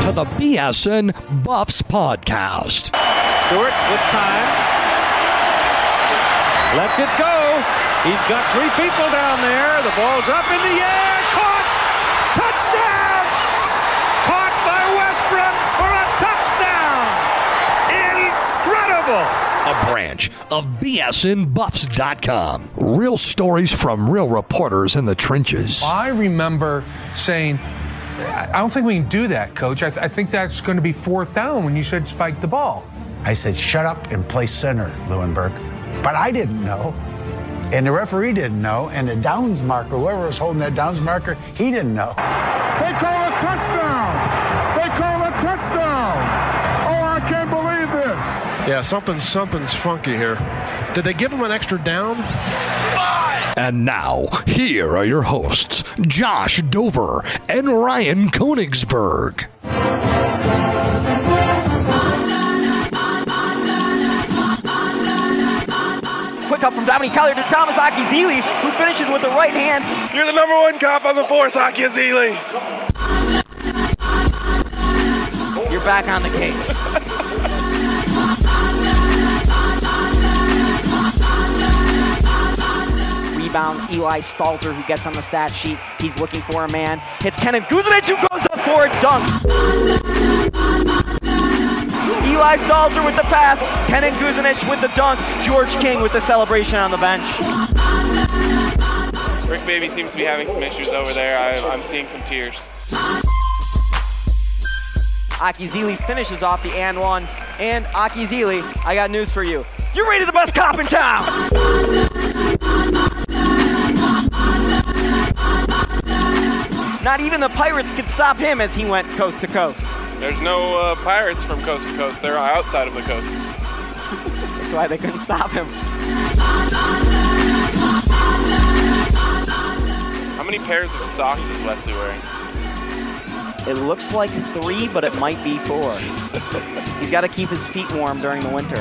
to the BSN Buffs podcast. Stewart with time. Lets it go. He's got three people down there. The ball's up in the air. Caught. Touchdown. Caught by Westbrook for a touchdown. Incredible. A branch of BSNBuffs.com. Real stories from real reporters in the trenches. I remember saying, I don't think we can do that, Coach. I think that's going to be fourth down when you said spike the ball. I said, shut up and play center, Leuenberg. But I didn't know. And the referee didn't know. And the downs marker, whoever was holding that downs marker, he didn't know. They call a touchdown. They call a touchdown. Oh, I can't believe this. Yeah, something's funky here. Did they give him an extra down? And now, here are your hosts, Josh Dover and Ryan Koenigsberg. Quick up from Dominique Collier to Thomas Akizili, who finishes with the right hand. You're the number one cop on the force, Akizili. You're back on the case. Rebound, Eli Stalter, who gets on the stat sheet. He's looking for a man. Hits Kenan Guzanic, who goes up for a dunk. Eli Stalter with the pass. Kenan Guzanic with the dunk. George King with the celebration on the bench. Rick Baby seems to be having some issues over there. I'm seeing some tears. Akizili finishes off the and one. And Akizili, I got news for you. You're rated the best cop in town! Not even the Pirates could stop him as he went coast to coast. There's no Pirates from coast to coast. They're outside of the coast. That's why they couldn't stop him. How many pairs of socks is Wesley wearing? It looks like 3, but it might be 4. He's got to keep his feet warm during the winter.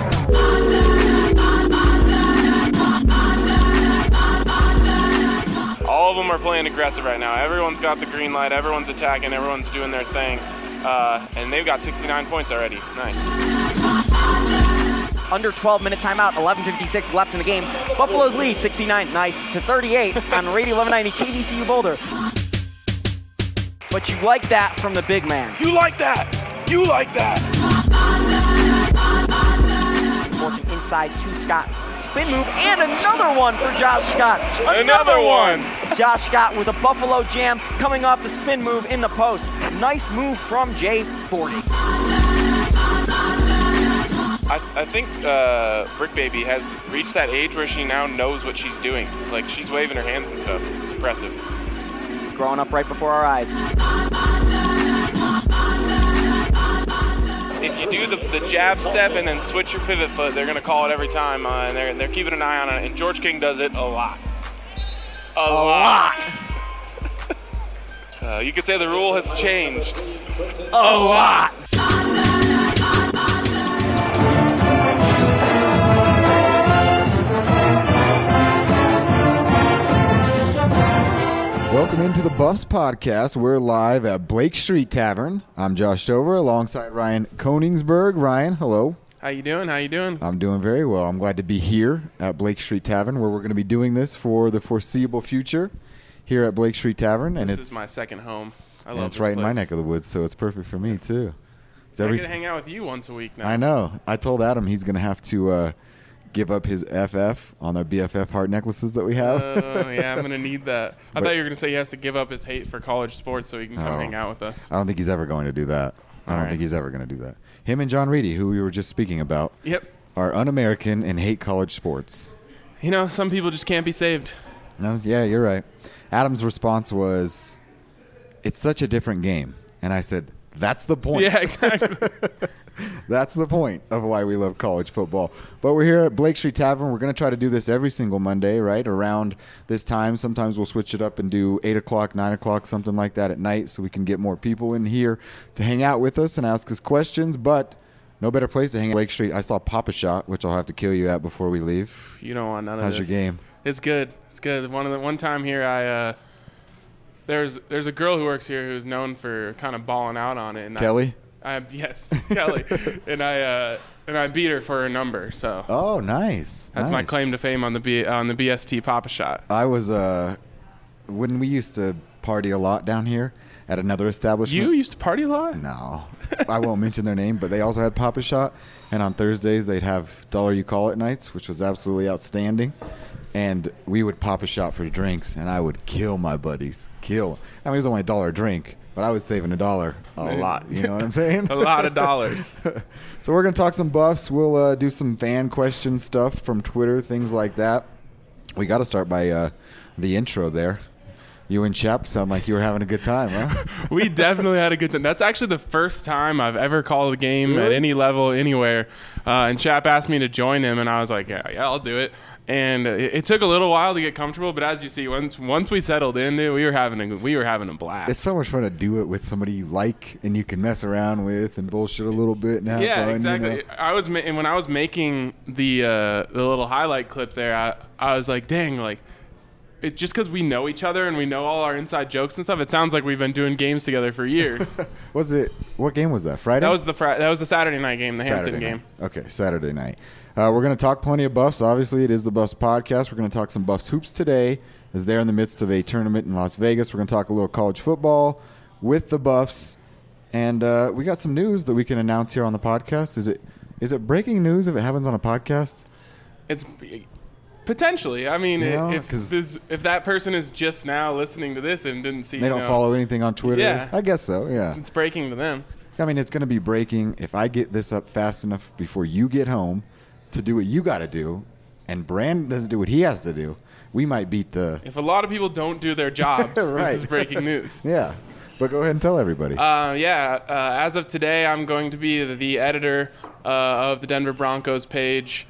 All of them are playing aggressive right now. Everyone's got the green light. Everyone's attacking. Everyone's doing their thing. And they've got 69 points already. Nice. Under 12-minute timeout, 11:56 left in the game. Buffalo's lead, 69, nice, to 38 on Radio 1190 KVCU Boulder. But you like that from the big man. You like that. You like that. Forcing inside to Scott. Spin move and another one for Josh Scott. Another one. Josh Scott with a Buffalo jam coming off the spin move in the post. Nice move from J40. I think Brick Baby has reached that age where she now knows what she's doing. Like, she's waving her hands and stuff. It's impressive. Growing up right before our eyes. If you do the jab step and then switch your pivot foot, they're going to call it every time, and they're keeping an eye on it. And George King does it a lot. A lot. You could say the rule has changed. A lot. Welcome into the Buffs podcast. We're live at Blake Street Tavern. I'm Josh Dover alongside Ryan Koenigsberg. Ryan, hello. How you doing? I'm doing very well. I'm glad to be here at Blake Street Tavern, where we're going to be doing this for the foreseeable future here at Blake Street Tavern. And this is my second home. I love it's this right place. in my neck of the woods, so it's perfect for me too. I get to hang out with you once a week now. I know. I told Adam he's going to have to give up his FF on our BFF heart necklaces that we have. Oh, yeah, I'm going to need that. I thought you were going to say he has to give up his hate for college sports so he can come hang out with us. I don't think he's ever going to do that. I don't think he's ever going to do that. Him and John Reedy, who we were just speaking about, are un-American and hate college sports. You know, some people just can't be saved. No, yeah, you're right. Adam's response was, it's such a different game. And I said, that's the point. Yeah, exactly. That's the point of why we love college football. But we're here at Blake Street Tavern. We're going to try to do this every single Monday, right, around this time. Sometimes we'll switch it up and do 8 o'clock, 9 o'clock, something like that at night so we can get more people in here to hang out with us and ask us questions. But no better place to hang out Blake Street. I saw Papa Shot, which I'll have to kill you at before we leave. You don't want none of this. How's your game? It's good. It's good. One time here, I there's a girl who works here who's known for kind of balling out on it. And Kelly? Yes, Kelly. and I beat her for her number. So. Oh, nice. That's my claim to fame on the BST Papa Shot. I was when we used to party a lot down here at another establishment. You used to party a lot? No. I won't mention their name, but they also had Papa Shot. And on Thursdays, they'd have Dollar You Call It nights, which was absolutely outstanding. And we would pop a shot for drinks, and I would kill my buddies. I mean, it was only $1 a drink, but I was saving $1 a lot. You know what I'm saying? A lot of dollars. So we're going to talk some Buffs. We'll do some fan question stuff from Twitter, things like that. We got to start by the intro there. You and Chap sound like you were having a good time, huh? We definitely had a good time. That's actually the first time I've ever called a game really? At any level, anywhere. And Chap asked me to join him, and I was like, yeah, I'll do it. And it took a little while to get comfortable, but as you see, once we settled in, dude, we were having a blast. It's so much fun to do it with somebody you like and you can mess around with and bullshit a little bit and have fun. Yeah, exactly. You know? When I was making the little highlight clip there, I was like, dang, like. It just because we know each other and we know all our inside jokes and stuff, it sounds like we've been doing games together for years. What game was that? Friday? That was the Saturday night game, the Hampton game. Okay, Saturday night. We're going to talk plenty of Buffs. Obviously, it is the Buffs podcast. We're going to talk some Buffs hoops today, as they're in the midst of a tournament in Las Vegas. We're going to talk a little college football with the Buffs, and we got some news that we can announce here on the podcast. Is it breaking news if it happens on a podcast? It's. Potentially. I mean, if that person is just now listening to this and didn't see, they don't follow anything on Twitter. Yeah, I guess so. Yeah, it's breaking to them. I mean, it's going to be breaking if I get this up fast enough before you get home to do what you got to do, and Brandon doesn't do what he has to do. We might beat the. If a lot of people don't do their jobs, right. This is breaking news. Yeah, but go ahead and tell everybody. As of today, I'm going to be the editor of the Denver Broncos page,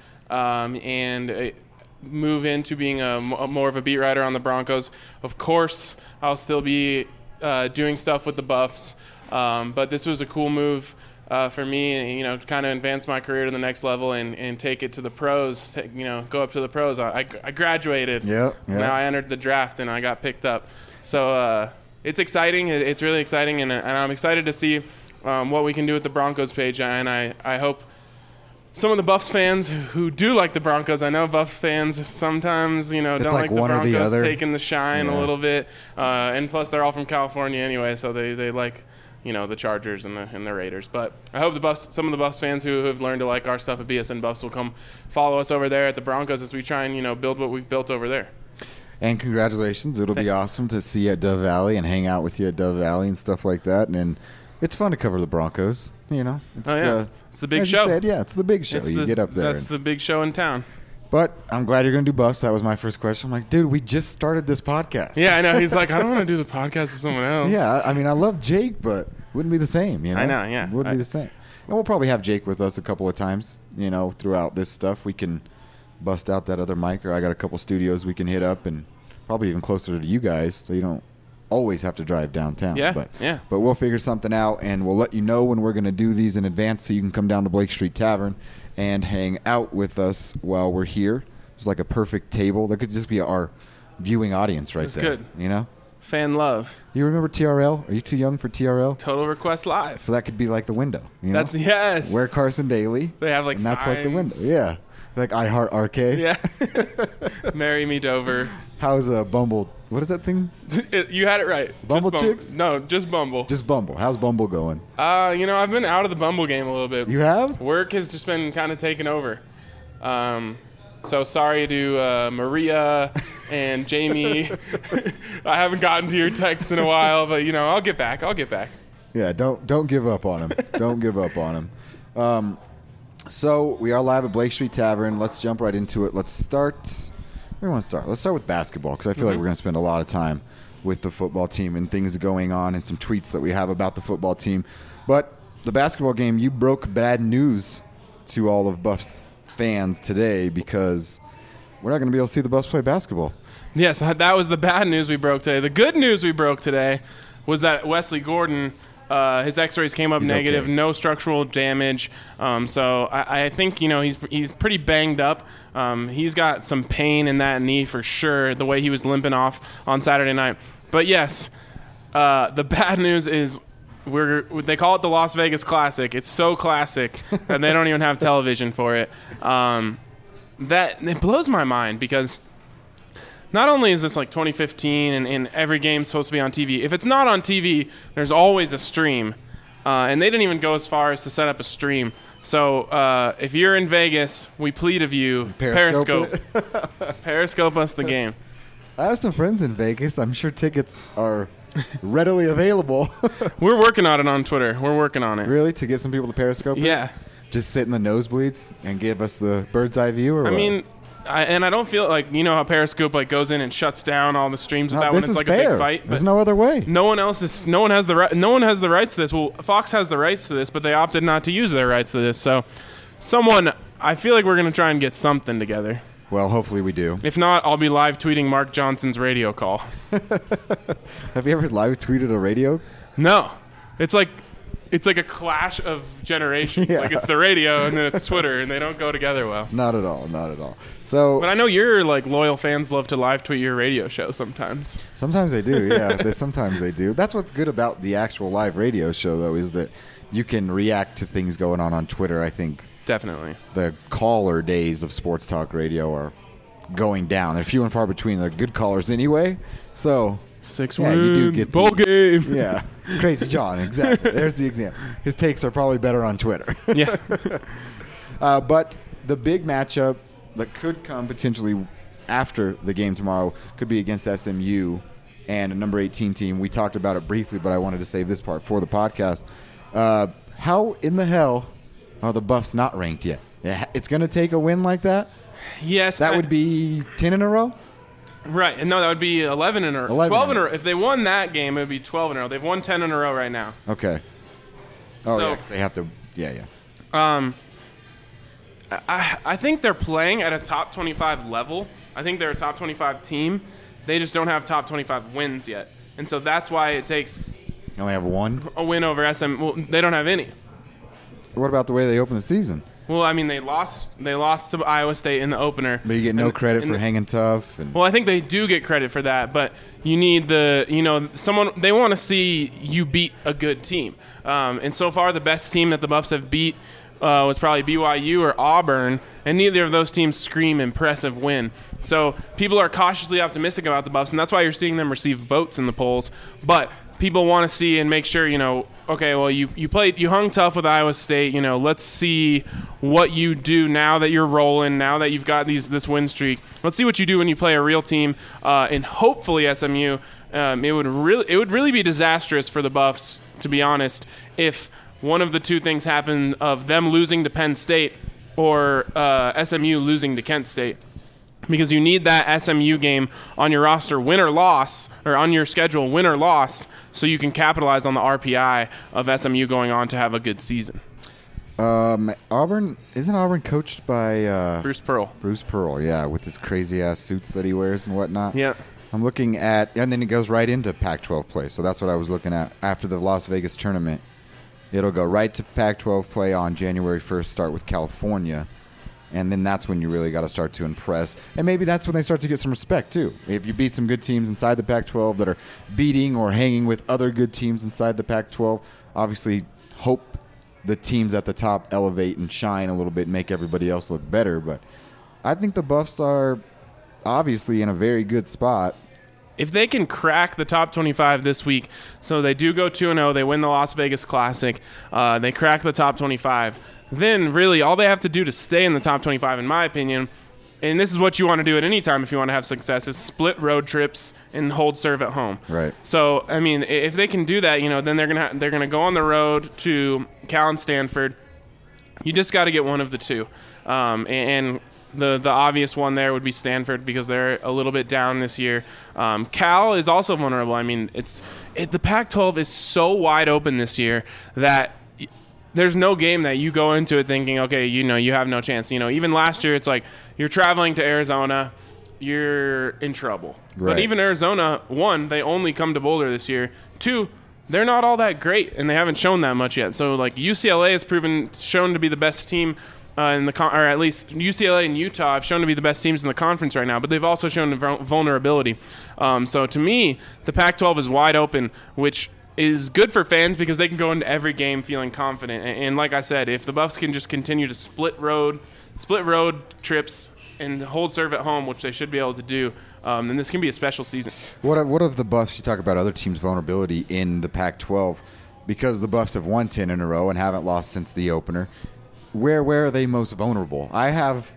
and. Move into being more of a beat writer on the Broncos. Of course, I'll still be doing stuff with the Buffs, but this was a cool move for me, to kind of advance my career to the next level and take it to the pros, go up to the pros. I graduated. Yep. Now I entered the draft, and I got picked up. So it's exciting. It's really exciting, and I'm excited to see what we can do with the Broncos page, and I hope some of the Buffs fans who do like the Broncos, I know Buffs fans sometimes, don't like the Broncos taking the shine a little bit. And plus, they're all from California anyway, so they like, the Chargers and the Raiders. But I hope some of the Buffs fans who have learned to like our stuff at BSN Buffs will come follow us over there at the Broncos as we try and, build what we've built over there. And congratulations. It'll be awesome to see you at Dove Valley and hang out with you at Dove Valley and stuff like that. And it's fun to cover the Broncos, It's the big as show. You said, it's the big show. You get up there. That's the big show in town. But I'm glad you're going to do Buffs. That was my first question. I'm like, dude, we just started this podcast. Yeah, I know. He's like, I don't want to do the podcast with someone else. Yeah, I mean, I love Jake, but wouldn't be the same, I know, yeah. Wouldn't be the same. And we'll probably have Jake with us a couple of times, throughout this stuff. We can bust out that other mic, or I got a couple studios we can hit up, and probably even closer to you guys, so you don't always have to drive downtown. But we'll figure something out, and we'll let you know when we're going to do these in advance so you can come down to Blake Street Tavern and hang out with us while we're here. It's like a perfect table. That could just be our viewing audience right there. That's good. Fan love. You remember TRL? Are you too young for TRL? Total Request Live. So that could be like the window. That's yes. Where Carson Daly. They have like and that's signs. like the window. Yeah. Like I Heart Arcade. Yeah. Marry Me Dover. How's Bumble? What is that thing? You had it right. Bumble Chicks? No, just Bumble. Just Bumble. How's Bumble going? I've been out of the Bumble game a little bit. You have? Work has just been kind of taken over. So sorry to Maria and Jamie. I haven't gotten to your text in a while, but I'll get back. Yeah, don't give up on him. Don't give up on him. So we are live at Blake Street Tavern. Let's jump right into it. Let's start. Where do we want to start? Let's start with basketball because I feel like we're going to spend a lot of time with the football team and things going on and some tweets that we have about the football team. But the basketball game, you broke bad news to all of Buffs fans today because we're not going to be able to see the Buffs play basketball. Yes, that was the bad news we broke today. The good news we broke today was that Wesley Gordon, his X-rays came up negative, okay. No structural damage. So I think he's pretty banged up. He's got some pain in that knee for sure. The way he was limping off on Saturday night. But yes, The bad news is they call it the Las Vegas Classic. It's so classic that they don't even have television for it. That it blows my mind because not only is this like 2015 and every game's supposed to be on TV, if it's not on TV, there's always a stream. And they didn't even go as far as to set up a stream. So if you're in Vegas, we plead of you, Periscope us the game. I have some friends in Vegas. I'm sure tickets are readily available. We're working on it on Twitter. We're working on it. Really? To get some people to Periscope it? Yeah. Just sit in the nosebleeds and give us the bird's eye view? Or I mean, I don't feel like, you know how Periscope like goes in and shuts down all the streams of that when it's like fair. A big fight. There's no other way. No one has the rights to this. Well, Fox has the rights to this, but they opted not to use their rights to this. So I feel like we're going to try and get something together. Well, hopefully we do. If not, I'll be live tweeting Mark Johnson's radio call. Have you ever live tweeted a radio? No. It's like a clash of generations. Yeah. Like it's the radio and then it's Twitter, and they don't go together well. Not at all. Not at all. So, but I know your like loyal fans love to live tweet your radio show sometimes. Sometimes they do. Yeah, sometimes they do. That's what's good about the actual live radio show, though, is that you can react to things going on Twitter. I think definitely the caller days of sports talk radio are going down. They're few and far between. They're good callers anyway. So 6-1 you do get bowl game. Yeah, Crazy John. Exactly. There's the example. His takes are probably better on Twitter. Yeah. But the big matchup that could come potentially after the game tomorrow could be against SMU and a number 18 team. We talked about it briefly, but I wanted to save this part for the podcast. How in the hell are the Buffs not ranked yet? It's going to take a win like that? Yes. That would be 10 in a row? Right. No, that would be 11 in a row. 12 in a row. If they won that game, it would be 12 in a row. They've won 10 in a row right now. Okay. Oh, so, yeah, 'cause they have to. Yeah. I think they're playing at a top 25 level. I think they're a top 25 team. They just don't have top 25 wins yet. And so that's why it takes You only have one? A win over SM. Well, they don't have any. What about the way they opened the season? Well, I mean, they lost to Iowa State in the opener. But you get no credit for hanging tough. Well, I think they do get credit for that, but you need someone. They want to see you beat a good team. And so far, the best team that the Buffs have beat was probably BYU or Auburn, and neither of those teams scream impressive win. So people are cautiously optimistic about the Buffs, and that's why you're seeing them receive votes in the polls. But people want to see and make sure, okay, well, you hung tough with Iowa State. Let's see what you do now that you're rolling, now that you've got this win streak. Let's see what you do when you play a real team, and hopefully SMU. It would really be disastrous for the Buffs, to be honest, if one of the two things happened of them losing to Penn State or SMU losing to Kent State. Because you need that SMU game on your roster, win or loss, or on your schedule, win or loss, so you can capitalize on the RPI of SMU going on to have a good season. Isn't Auburn coached by Bruce Pearl? Bruce Pearl, yeah, with his crazy ass suits that he wears and whatnot. Yeah. I'm looking at, and then it goes right into Pac-12 play. So that's what I was looking at after the Las Vegas tournament. It'll go right to Pac-12 play on January 1st, start with California. And then that's when you really got to start to impress. And maybe that's when they start to get some respect, too. If you beat some good teams inside the Pac-12 that are beating or hanging with other good teams inside the Pac-12, obviously hope the teams at the top elevate and shine a little bit and make everybody else look better. But I think the Buffs are obviously in a very good spot. If they can crack the top 25 this week, so they do go 2-0, they win the Las Vegas Classic, they crack the top 25, then really all they have to do to stay in the top 25, in my opinion, and this is what you want to do at any time if you want to have success, is split road trips and hold serve at home. Right. So, I mean, if they can do that, then they're gonna go on the road to Cal and Stanford. You just got to get one of the two, and the obvious one there would be Stanford because they're a little bit down this year. Cal is also vulnerable. I mean, the Pac-12 is so wide open this year that there's no game that you go into it thinking, okay, you have no chance. Even last year, it's like you're traveling to Arizona, you're in trouble. Right. But even Arizona, one, they only come to Boulder this year. Two, they're not all that great, and they haven't shown that much yet. So, like, UCLA has shown to be the best team or at least UCLA and Utah have shown to be the best teams in the conference right now, but they've also shown vulnerability. So to me, the Pac-12 is wide open, which is good for fans because they can go into every game feeling confident. And like I said, if the Buffs can just continue to split road trips and hold serve at home, which they should be able to do, then this can be a special season. What of the Buffs? You talk about other teams' vulnerability in the Pac-12 because the Buffs have won 10 in a row and haven't lost since the opener. Where are they most vulnerable? I've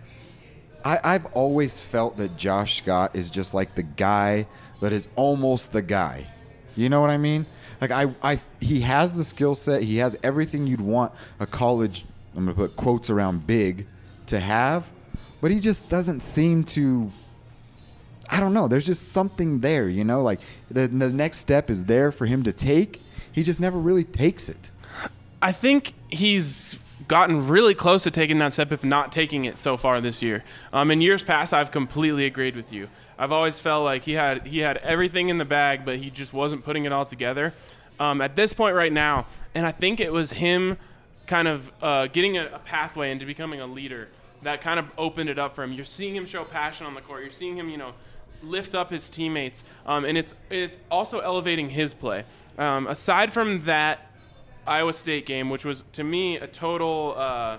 always felt that Josh Scott is just like the guy that is almost the guy. You know what I mean? Like he has the skill set. He has everything you'd want a college, I'm going to put quotes around big, to have. But he just doesn't seem to, I don't know. There's just something there, you know? Like the next step is there for him to take. He just never really takes it. I think he's gotten really close to taking that step, if not taking it so far this year. In years past, I've completely agreed with you. I've always felt like he had everything in the bag, but he just wasn't putting it all together. At this point right now, and I think it was him kind of getting a pathway into becoming a leader that kind of opened it up for him. You're seeing him show passion on the court. You're seeing him, lift up his teammates, and it's also elevating his play. Aside from that Iowa State game, which was to me a total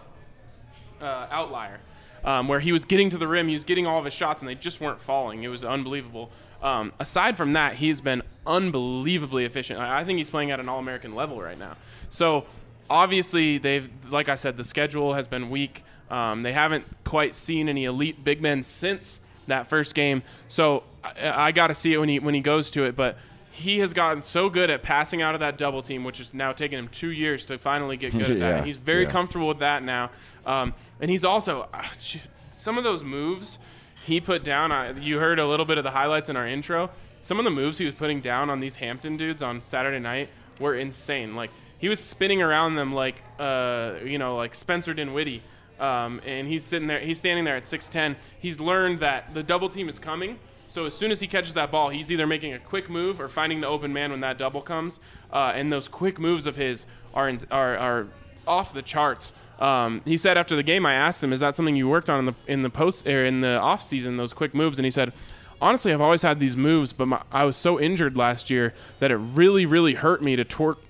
outlier, where he was getting to the rim, he was getting all of his shots, and they just weren't falling. It was unbelievable. Aside from that, he's been unbelievably efficient. I think he's playing at an All-American level right now. So obviously, like I said, the schedule has been weak. They haven't quite seen any elite big men since that first game. So I got to see it when he goes to it. But he has gotten so good at passing out of that double team, which has now taken him 2 years to finally get good at that. And he's very comfortable with that now. And he's also some of those moves he put down. You heard a little bit of the highlights in our intro. Some of the moves he was putting down on these Hampton dudes on Saturday night were insane. Like he was spinning around them like Spencer Dinwiddie. And he's standing there at 6'10". He's learned that the double team is coming. So as soon as he catches that ball, he's either making a quick move or finding the open man when that double comes. And those quick moves of his are off the charts. He said after the game, I asked him, "Is that something you worked on in the off season? Those quick moves?" And he said, "Honestly, I've always had these moves, but I was so injured last year that it really, really hurt me to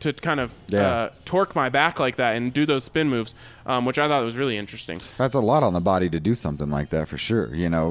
torque my back like that and do those spin moves," which I thought was really interesting. That's a lot on the body to do something like that for sure.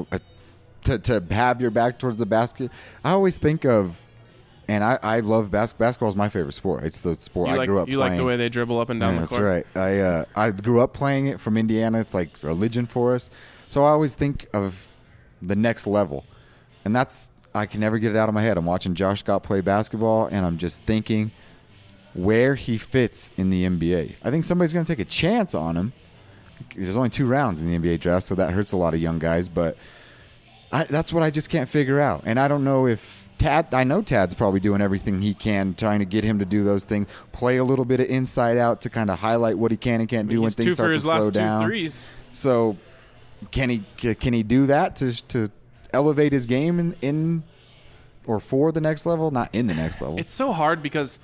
To have your back towards the basket. I always think of, and I love basketball. Basketball is my favorite sport. It's the sport I grew up playing. You like the way they dribble up and down the court? That's right. I grew up playing it from Indiana. It's like religion for us. So I always think of the next level. And I can never get it out of my head. I'm watching Josh Scott play basketball, and I'm just thinking where he fits in the NBA. I think somebody's going to take a chance on him. There's only 2 rounds in the NBA draft, so that hurts a lot of young guys. But that's what I just can't figure out. And I don't know if I know Tad's probably doing everything he can, trying to get him to do those things, play a little bit of inside out to kind of highlight what he can and can't do when things start to slow down. 2 threes. So can he do that to elevate his game in or for the next level? Not in the next level. It's so hard because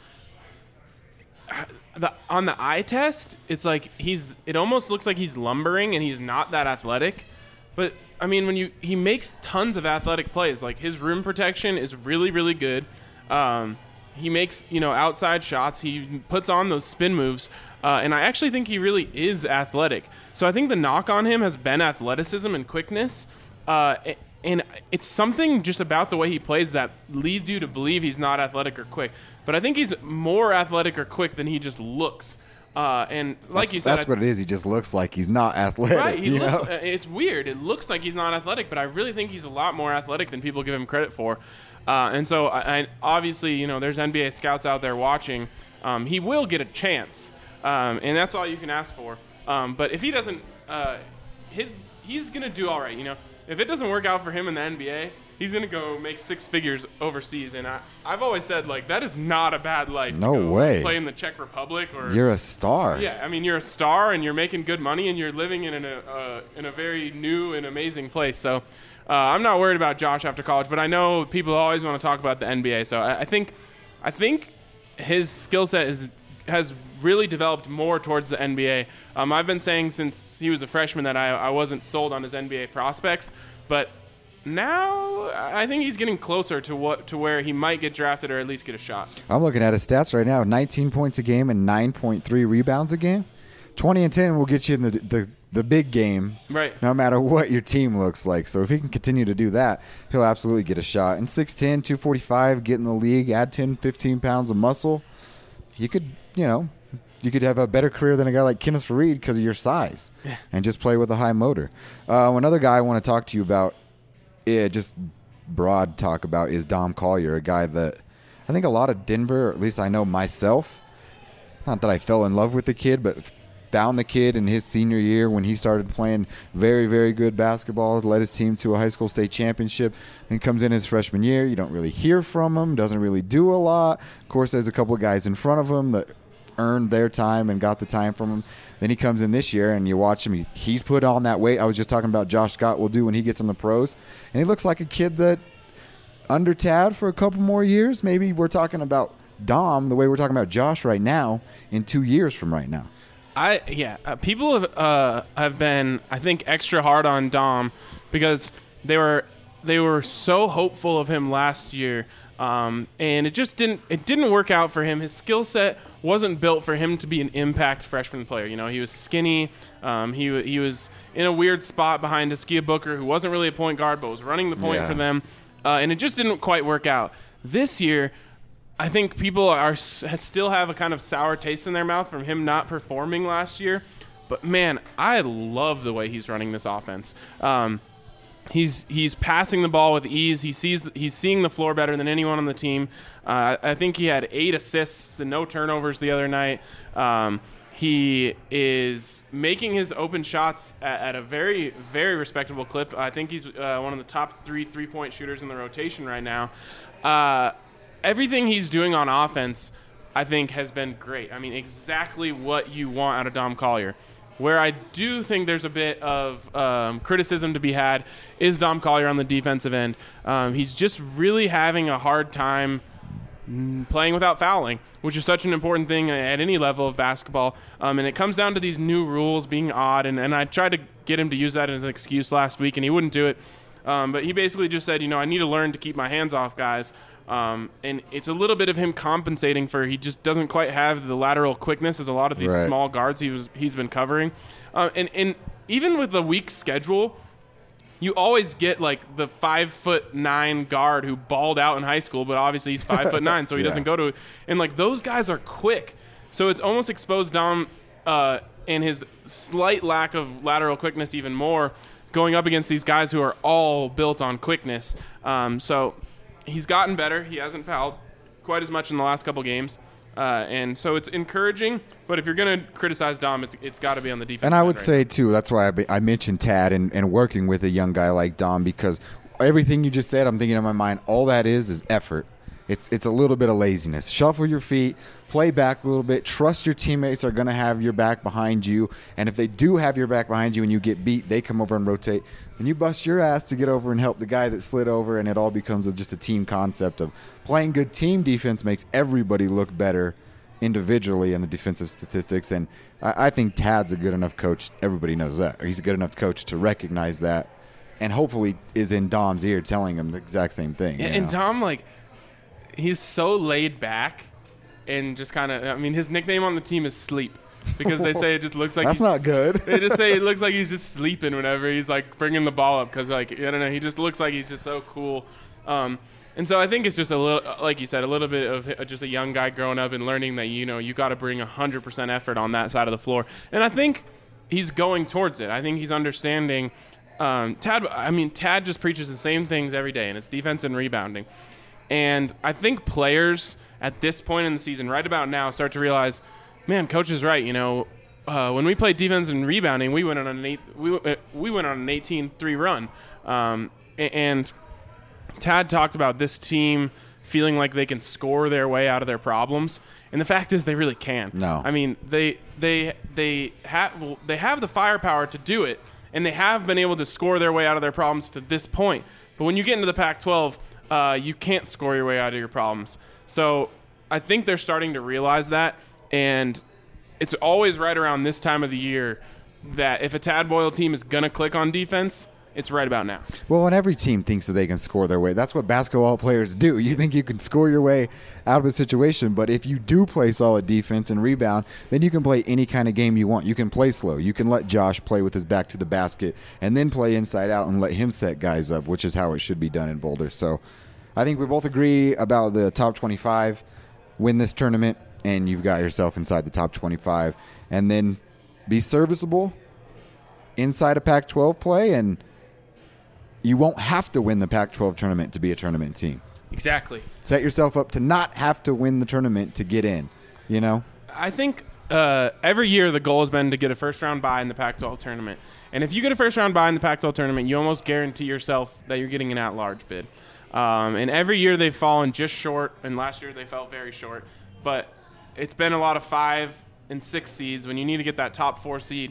on the eye test, it's like it almost looks like he's lumbering and he's not that athletic. But I mean, he makes tons of athletic plays. Like his rim protection is really, really good. He makes outside shots. He puts on those spin moves, and I actually think he really is athletic. So I think the knock on him has been athleticism and quickness. And it's something just about the way he plays that leads you to believe he's not athletic or quick. But I think he's more athletic or quick than he just looks. And like you said, that's what it is. He just looks like he's not athletic. Right. It's weird. It looks like he's not athletic, but I really think he's a lot more athletic than people give him credit for. And so I obviously, there's NBA scouts out there watching. He will get a chance. And that's all you can ask for. But if he doesn't, he's going to do all right. If it doesn't work out for him in the NBA, he's going to go make 6 figures overseas. And I've always said, that is not a bad life. No to go way. Play in the Czech Republic. You're a star. Yeah, I mean, you're a star, and you're making good money, and you're living in a very new and amazing place. So I'm not worried about Josh after college, but I know people always want to talk about the NBA. So I think his skill set has really developed more towards the NBA. I've been saying since he was a freshman that I wasn't sold on his NBA prospects, but now I think he's getting closer to where he might get drafted or at least get a shot. I'm looking at his stats right now: 19 points a game and 9.3 rebounds a game. 20 and 10 will get you in the big game, right? No matter what your team looks like. So if he can continue to do that, he'll absolutely get a shot. And 6'10", 245, get in the league, add 10, 15 pounds of muscle. You could have a better career than a guy like Kenneth Faried because of your size and just play with a high motor. Another guy I want to talk to you about, just broad talk about, is Dom Collier, a guy that I think a lot of Denver, or at least I know myself, not that I fell in love with the kid, but found the kid in his senior year when he started playing very, very good basketball, led his team to a high school state championship, and comes in his freshman year. You don't really hear from him, doesn't really do a lot. Of course, there's a couple of guys in front of him that earned their time and got the time from him. Then he comes in this year, and you watch him. He's put on that weight. I was just talking about Josh Scott will do when he gets in the pros. And he looks like a kid that under Tad for a couple more years. Maybe we're talking about Dom the way we're talking about Josh right now in 2 years from right now. People have been, I think, extra hard on Dom because they were so hopeful of him last year, and it didn't work out for him. His skill set wasn't built for him to be an impact freshman player. You know, he was skinny. He was in a weird spot behind Askia Booker, who wasn't really a point guard but was running the point for them, and it just didn't quite work out. This year, I think people still have a kind of sour taste in their mouth from him not performing last year. But, man, I love the way he's running this offense. He's passing the ball with ease. He's seeing the floor better than anyone on the team. I think he had 8 assists and no turnovers the other night. He is making his open shots at a very, very respectable clip. I think he's one of the top 3 3-point shooters in the rotation right now. Everything he's doing on offense, I think, has been great. I mean, exactly what you want out of Dom Collier. Where I do think there's a bit of criticism to be had is Dom Collier on the defensive end. He's just really having a hard time playing without fouling, which is such an important thing at any level of basketball. And it comes down to these new rules being odd, and I tried to get him to use that as an excuse last week, and he wouldn't do it. But he basically just said, I need to learn to keep my hands off guys. And it's a little bit of him compensating for he just doesn't quite have the lateral quickness as a lot of these small guards he's been covering. And even with the weak schedule, you always get like the 5'9" guard who balled out in high school, but obviously he's 5'9", so he doesn't go to. And like those guys are quick, so it's almost exposed Dom and his slight lack of lateral quickness even more, going up against these guys who are all built on quickness. So he's gotten better. He hasn't fouled quite as much in the last couple games. And so it's encouraging, but if you're going to criticize Dom, it's got to be on the defense. And I would say, too, that's why I mentioned Tad and working with a young guy like Dom, because everything you just said, I'm thinking in my mind, all that is effort. It's a little bit of laziness. Shuffle your feet, play back a little bit, trust your teammates are going to have your back behind you, and if they do have your back behind you and you get beat, they come over and rotate, and you bust your ass to get over and help the guy that slid over, and it all becomes just a team concept of playing good team defense makes everybody look better individually in the defensive statistics, and I think Tad's a good enough coach. Everybody knows that. He's a good enough coach to recognize that, and hopefully is in Dom's ear telling him the exact same thing. And Dom, he's so laid back and just kind of, his nickname on the team is Sleep because they say it just looks like that's not good. They just say it looks like he's just sleeping whenever he's bringing the ball up because I don't know, he just looks like he's just so cool. And so I think it's just a little, like you said, a little bit of just a young guy growing up and learning that, you got to bring 100% effort on that side of the floor. And I think he's going towards it. I think he's understanding. Tad just preaches the same things every day, and it's defense and rebounding. And I think players at this point in the season, right about now, start to realize, man, coach is right. When we played defense and rebounding, we went on an 18-3 run. And Tad talked about this team feeling like they can score their way out of their problems, and the fact is they really can. No, they have the firepower to do it, and they have been able to score their way out of their problems to this point. But when you get into the Pac-12, you can't score your way out of your problems. So I think they're starting to realize that. And it's always right around this time of the year that if a Tad Boyle team is going to click on defense, it's right about now. Well, and every team thinks that they can score their way. That's what basketball players do. You think you can score your way out of a situation, but if you do play solid defense and rebound, then you can play any kind of game you want. You can play slow. You can let Josh play with his back to the basket and then play inside out and let him set guys up, which is how it should be done in Boulder. So I think we both agree about the top 25. Win this tournament, and you've got yourself inside the top 25. And then be serviceable inside a Pac-12 play, and you won't have to win the Pac-12 tournament to be a tournament team. Exactly. Set yourself up to not have to win the tournament to get in, you know? I think every year the goal has been to get a first-round bye in the Pac-12 tournament. And if you get a first-round bye in the Pac-12 tournament, you almost guarantee yourself that you're getting an at-large bid. And every year they've fallen just short, and last year they fell very short. But it's been a lot of 5 and 6 seeds when you need to get that top 4 seed.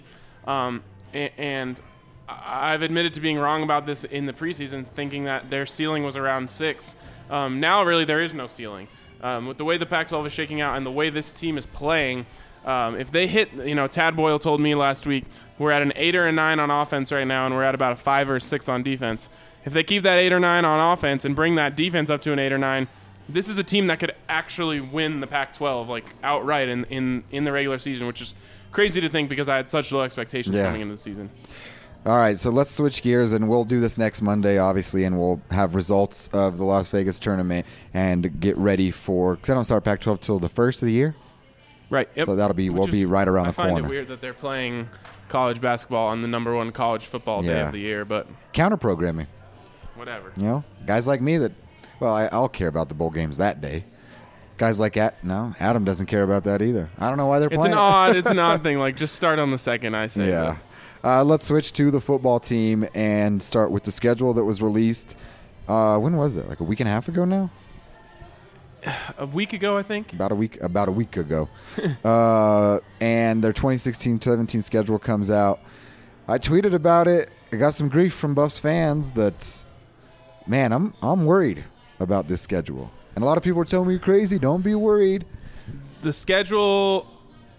And I've admitted to being wrong about this in the preseason, thinking that their ceiling was around 6. Now, really, there is no ceiling. With the way the Pac-12 is shaking out and the way this team is playing, if they hit, Tad Boyle told me last week, we're at an 8 or a 9 on offense right now, and we're at about a 5 or a 6 on defense. If they keep that 8 or 9 on offense and bring that defense up to an 8 or 9, this is a team that could actually win the Pac-12 like outright in the regular season, which is crazy to think because I had such low expectations coming into the season. All right, so let's switch gears, and we'll do this next Monday, obviously, and we'll have results of the Las Vegas tournament and get ready for – because I don't start Pac-12 till the first of the year. Right. Yep. So we'll be right around the corner. I find it weird that they're playing college basketball on the number 1 college football day of the year, but – counter-programming. Whatever. Guys like me that – well, I'll care about the bowl games that day. Guys like Adam doesn't care about that either. I don't know why they're playing. It's an odd thing. Like, just start on the second, I say. Yeah. Let's switch to the football team and start with the schedule that was released. When was it? Like a week and a half ago now? A week ago, I think. About a week ago. And their 2016-17 schedule comes out. I tweeted about it. I got some grief from Buffs fans that, man, I'm worried about this schedule. And a lot of people are telling me you're crazy. Don't be worried. The schedule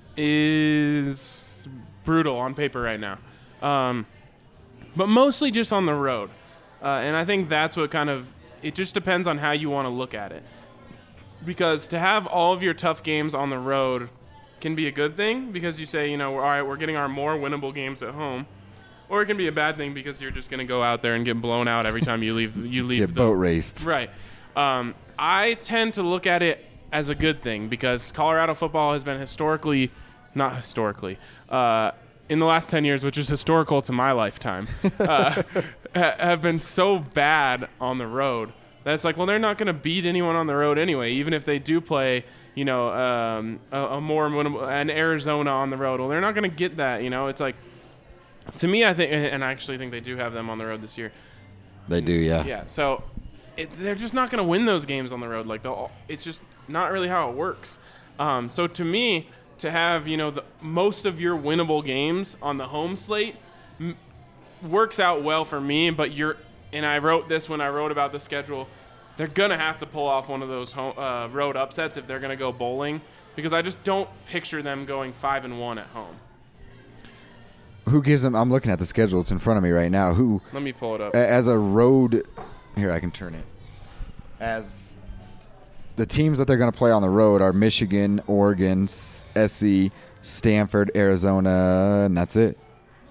is brutal on paper right now. But mostly just on the road. And I think that's what it just depends on how you want to look at it. Because to have all of your tough games on the road can be a good thing because you say, all right, we're getting our more winnable games at home. Or it can be a bad thing because you're just going to go out there and get blown out every time you leave. Get boat raced. Right. I tend to look at it as a good thing because Colorado football has been not historically, in the last 10 years, which is historical to my lifetime, have been so bad on the road that it's like, well, they're not going to beat anyone on the road anyway, even if they do play, a more winnable, an Arizona on the road. Well, they're not going to get that, It's like, to me, I think, and I actually think they do have them on the road this year. They do, yeah. Yeah, so they're just not going to win those games on the road. Like, it's just not really how it works. So to me, to have, most of your winnable games on the home slate works out well for me, but and I wrote this when I wrote about the schedule, they're going to have to pull off one of those road upsets if they're going to go bowling, because I just don't picture them going 5-1 at home. Who gives them? I'm looking at the schedule. It's in front of me right now. Let me pull it up. As a road, here I can turn it. As the teams that they're going to play on the road are Michigan, Oregon, SC, Stanford, Arizona, and that's it.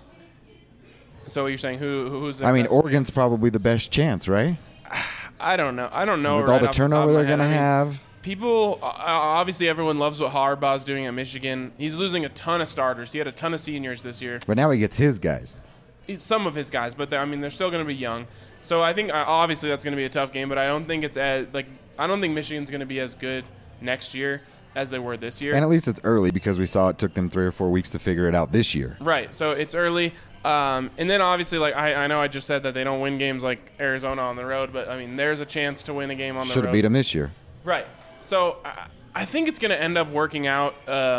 So you're saying who's? I mean, Oregon's probably the best chance, right? I don't know. With all the turnover they're going to have. People, obviously everyone loves what Harbaugh's doing at Michigan. He's losing a ton of starters. He had a ton of seniors this year. But now he gets his guys. Some of his guys, but they're still going to be young. So I think obviously that's going to be a tough game, but I don't think I don't think Michigan's going to be as good next year as they were this year. And at least it's early because we saw it took them 3 or 4 weeks to figure it out this year. Right. So it's early. And then obviously, I know I just said that they don't win games like Arizona on the road, but I mean, there's a chance to win a game on the road. Should have beat them this year. Right. So I think it's going to end up working out.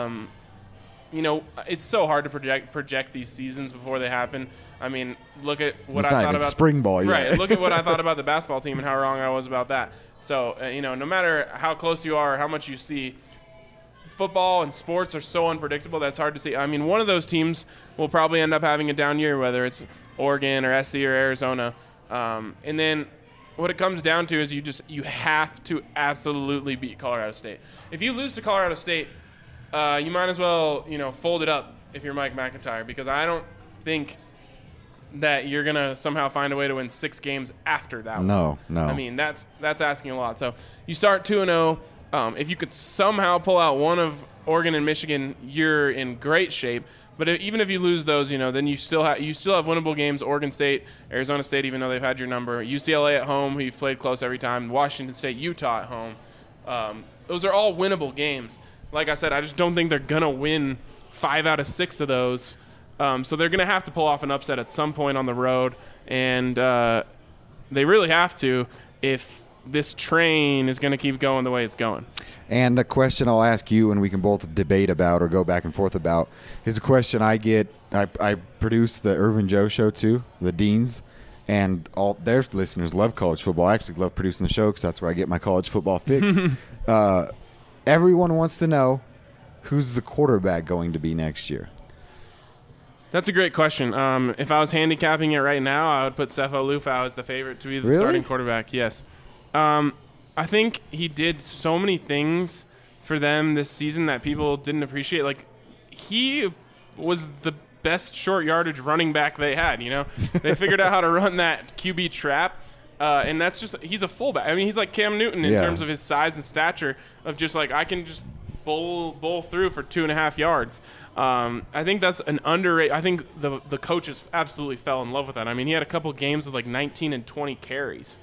It's so hard to project these seasons before they happen. I mean, look at what I thought about spring ball. Right. Look at what I thought about the basketball team and how wrong I was about that. So no matter how close you are, or how much you see, football and sports are so unpredictable that's hard to see. I mean, one of those teams will probably end up having a down year, whether it's Oregon or SC or Arizona. And then what it comes down to is you have to absolutely beat Colorado State. If you lose to Colorado State, you might as well, fold it up if you're Mike McIntyre, because I don't think that you're going to somehow find a way to win 6 games after that. No. I mean, that's asking a lot. So you start 2-0. If you could somehow pull out one of Oregon and Michigan, you're in great shape. But even if you lose those, then you still have winnable games. Oregon State, Arizona State, even though they've had your number. UCLA at home, who you've played close every time. Washington State, Utah at home. Those are all winnable games. Like I said, I just don't think they're going to win 5 out of 6 of those. So they're going to have to pull off an upset at some point on the road. And they really have to if this train is going to keep going the way it's going. And a question I'll ask you, and we can both debate about or go back and forth about, is a question I get. I produce the Irvin Joe Show too, the Deans, and all their listeners love college football. I actually love producing the show because that's where I get my college football fix. Everyone wants to know, who's the quarterback going to be next year? That's a great question. If I was handicapping it right now, I would put Sefo Lufau as the favorite to be the starting quarterback. Yes. I think he did so many things for them this season that people didn't appreciate. Like, he was the best short yardage running back they had, They figured out how to run that QB trap, and that's just – he's a fullback. I mean, he's like Cam Newton in terms of his size and stature of just like, I can just bowl through for 2.5 yards. I think that's an underrated – I think the coaches absolutely fell in love with that. I mean, he had a couple games with like 19 and 20 carries.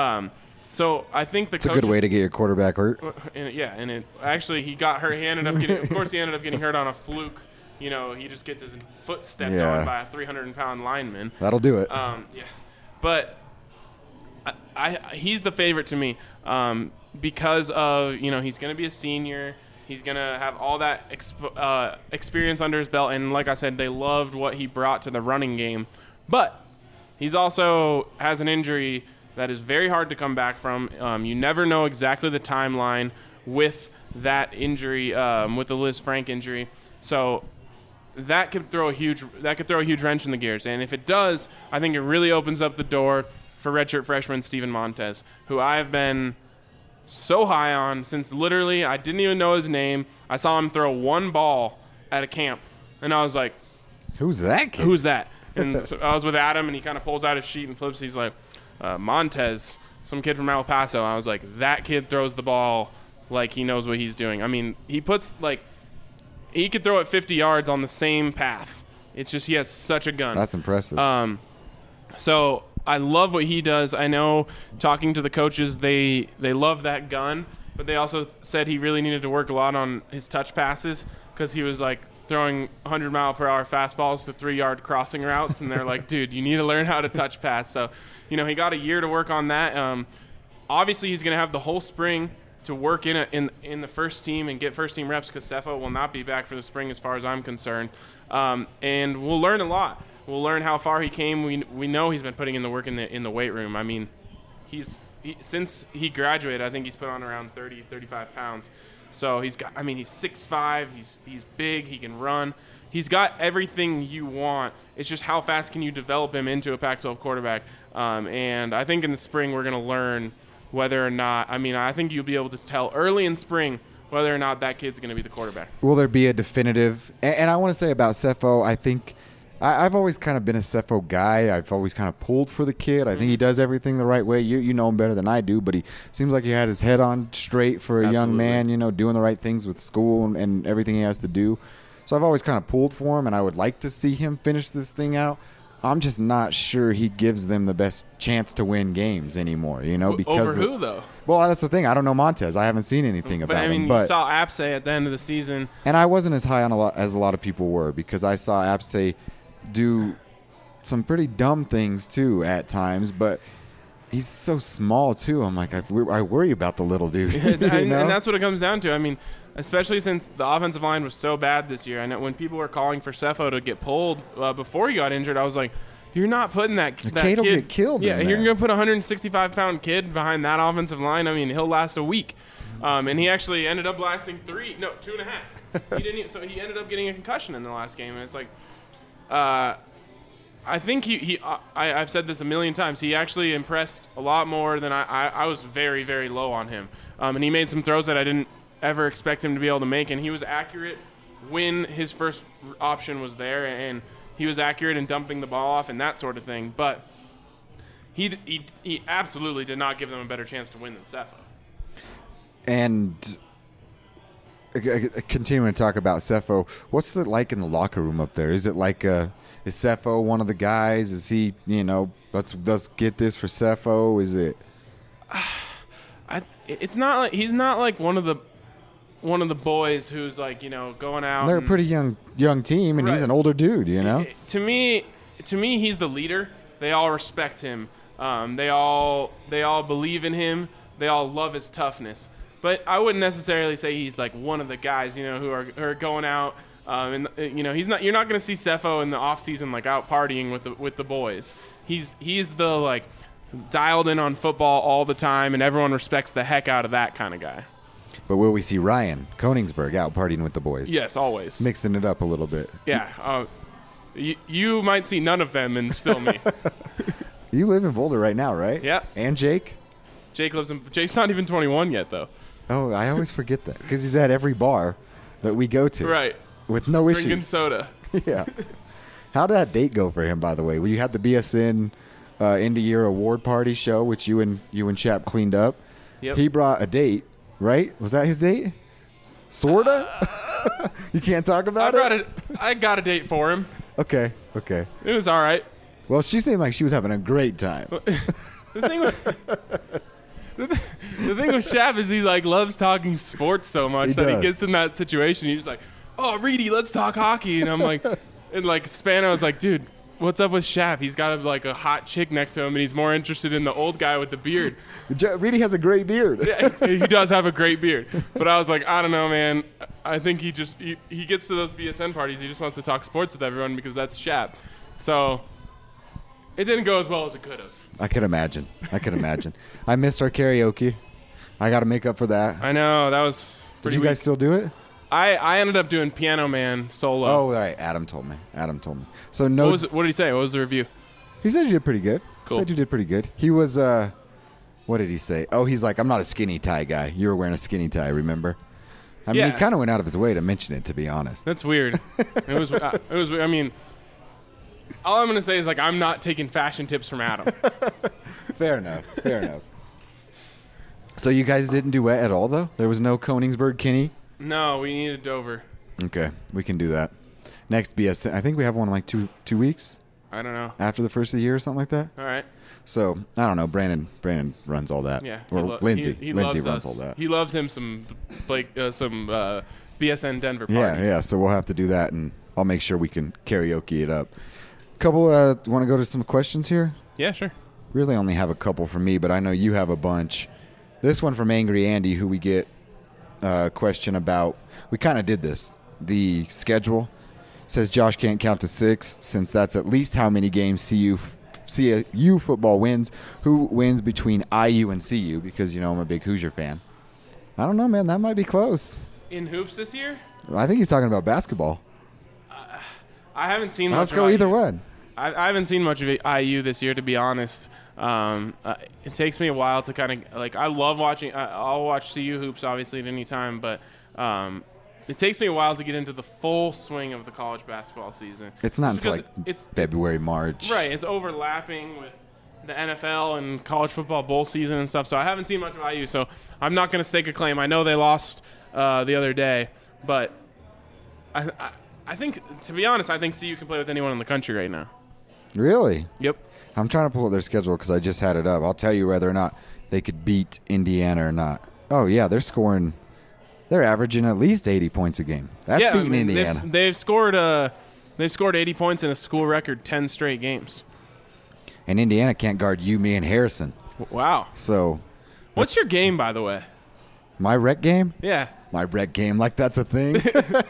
So I think it's a good way to get your quarterback hurt. And it actually he got hurt. He ended up getting, of course, hurt on a fluke. He just gets his foot stepped on by a 300-pound lineman. That'll do it. But he's the favorite to me because of he's going to be a senior. He's going to have all that experience under his belt, and like I said, they loved what he brought to the running game. But he's also has an injury that is very hard to come back from. You never know exactly the timeline with that injury, with the Liz Frank injury. So that could throw a huge wrench in the gears. And if it does, I think it really opens up the door for redshirt freshman Steven Montez, who I have been so high on since literally I didn't even know his name. I saw him throw one ball at a camp, and I was like, "Who's that kid? Who's that?" And so I was with Adam, and he kind of pulls out his sheet and flips. He's like, Montez, some kid from El Paso. I was like, that kid throws the ball like he knows what he's doing. I mean, he could throw it 50 yards on the same path. It's just he has such a gun. That's impressive. So I love what he does. I know talking to the coaches, they love that gun, but they also said he really needed to work a lot on his touch passes because he was like throwing 100-mile-per-hour fastballs to 3-yard crossing routes, and they're like, dude, you need to learn how to touch pass. So, he got a year to work on that. Obviously, he's going to have the whole spring to work in the first team and get first-team reps because Sefo will not be back for the spring as far as I'm concerned. And we'll learn a lot. We'll learn how far he came. We know he's been putting in the work in the weight room. I mean, since he graduated, I think he's put on around 30, 35 pounds. So he's 6'5", he's big, he can run. He's got everything you want. It's just how fast can you develop him into a Pac-12 quarterback. And I think in the spring we're going to learn whether or not – I think you'll be able to tell early in spring whether or not that kid's going to be the quarterback. Will there be a definitive – and I want to say about Sefo, I think – I've always kind of been a Sefo guy. I've always kind of pulled for the kid. I think he does everything the right way. You know him better than I do, but he seems like he had his head on straight for a young man, doing the right things with school and everything he has to do. So I've always kind of pulled for him, and I would like to see him finish this thing out. I'm just not sure he gives them the best chance to win games anymore, because over who, though? Well, that's the thing. I don't know Montez. I haven't seen anything about him. But you saw Apsay at the end of the season. And I wasn't as high on as a lot of people were because I saw Apsay do some pretty dumb things too at times, but he's so small too. I'm like, I worry about the little dude. And that's what it comes down to. Especially since the offensive line was so bad this year. I know when people were calling for Sefo to get pulled before he got injured, I was like, you're not putting that kid. Will get killed. Yeah, you're going to put a 165-pound kid behind that offensive line. He'll last a week. And he actually ended up lasting 2.5. So he ended up getting a concussion in the last game. And it's like, I think I've said this a million times. He actually impressed a lot more than I was very, very low on him. And he made some throws that I didn't ever expect him to be able to make. And he was accurate when his first option was there. And he was accurate in dumping the ball off and that sort of thing. But he absolutely did not give them a better chance to win than Cepho. And continuing to talk about Cepho, what's it like in the locker room up there? Is it like is Cepho one of the guys? Is he, let's get this for Cepho? Is it? It's not like he's not like one of the boys who's like going out. They're a pretty young team, and right. He's an older dude. To me, he's the leader. They all respect him. They all believe in him. They all love his toughness. But I wouldn't necessarily say he's like one of the guys, who are going out. He's not. You're not going to see Cepho in the off season like out partying with the boys. He's the like dialed in on football all the time, and everyone respects the heck out of that kind of guy. But will we see Ryan Koenigsberg out partying with the boys? Yes, always. Mixing it up a little bit. Yeah. You might see none of them and still me. You live in Boulder right now, right? Yeah. And Jake? Jake's not even 21 yet, though. Oh, I always forget that because he's at every bar that we go to. Right. With no issues. Drinking soda. Yeah. How did that date go for him, by the way? Well, you had the BSN end of year award party show, which you and Chap cleaned up. Yep. He brought a date, right? Was that his date? Sorta? You can't talk about it? I got a date for him. Okay. It was all right. Well, she seemed like she was having a great time. The thing with Shap is he like loves talking sports so much that he gets in that situation. He's like, "Oh, Reedy, let's talk hockey," and I'm like, and like Spano's like, "Dude, what's up with Shap? He's got like a hot chick next to him, and he's more interested in the old guy with the beard." Reedy has a great beard. Yeah, he does have a great beard, but I was like, I don't know, man. I think he gets to those BSN parties. He just wants to talk sports with everyone because that's Shap. So it didn't go as well as it could have. I can imagine. I missed our karaoke. I got to make up for that. I know. That was pretty Did you guys still do it? I ended up doing Piano Man solo. Oh, all right. Adam told me. So no. What did he say? What was the review? He said you did pretty good. Cool. He said you did pretty good. He was, what did he say? Oh, he's like, I'm not a skinny tie guy. You were wearing a skinny tie, remember? I mean, he kind of went out of his way to mention it, to be honest. That's weird. It was, I mean, all I'm going to say is, like, I'm not taking fashion tips from Adam. Fair enough. So you guys didn't do wet at all, though? There was no Koenigsberg Kinney? No, we needed Dover. Okay, we can do that. Next BSN, I think we have one in like two weeks. I don't know. After the first of the year or something like that? All right. So, I don't know. Brandon runs all that. Yeah. Or Lindsay. He Lindsay loves runs us. all that. He loves him some BSN Denver parties. Yeah. So we'll have to do that, and I'll make sure we can karaoke it up. Want to go to some questions here? Yeah, sure. Really only have a couple for me, but I know you have a bunch. This one from Angry Andy, who we get a question about. We kind of did this. The schedule says Josh can't count to 6 since that's at least how many games CU football wins. Who wins between IU and CU? Because, I'm a big Hoosier fan. I don't know, man. That might be close. In hoops this year? I think he's talking about basketball. I haven't seen much. Let's go either one. I haven't seen much of IU this year, to be honest. It takes me a while to kind of like. I love watching. I'll watch CU hoops obviously at any time, but it takes me a while to get into the full swing of the college basketball season. It's not until it's February, March. Right. It's overlapping with the NFL and college football bowl season and stuff. So I haven't seen much of IU. So I'm not going to stake a claim. I know they lost the other day, but I think, to be honest, I think CU can play with anyone in the country right now. Really? Yep. I'm trying to pull up their schedule because I just had it up. I'll tell you whether or not they could beat Indiana or not. Oh, yeah, they're scoring. They're averaging at least 80 points a game. That's beating Indiana. They've scored 80 points in a school record 10 straight games. And Indiana can't guard you, me, and Harrison. Wow. So. What's your game, by the way? My rec game? Yeah. My rec game, like that's a thing.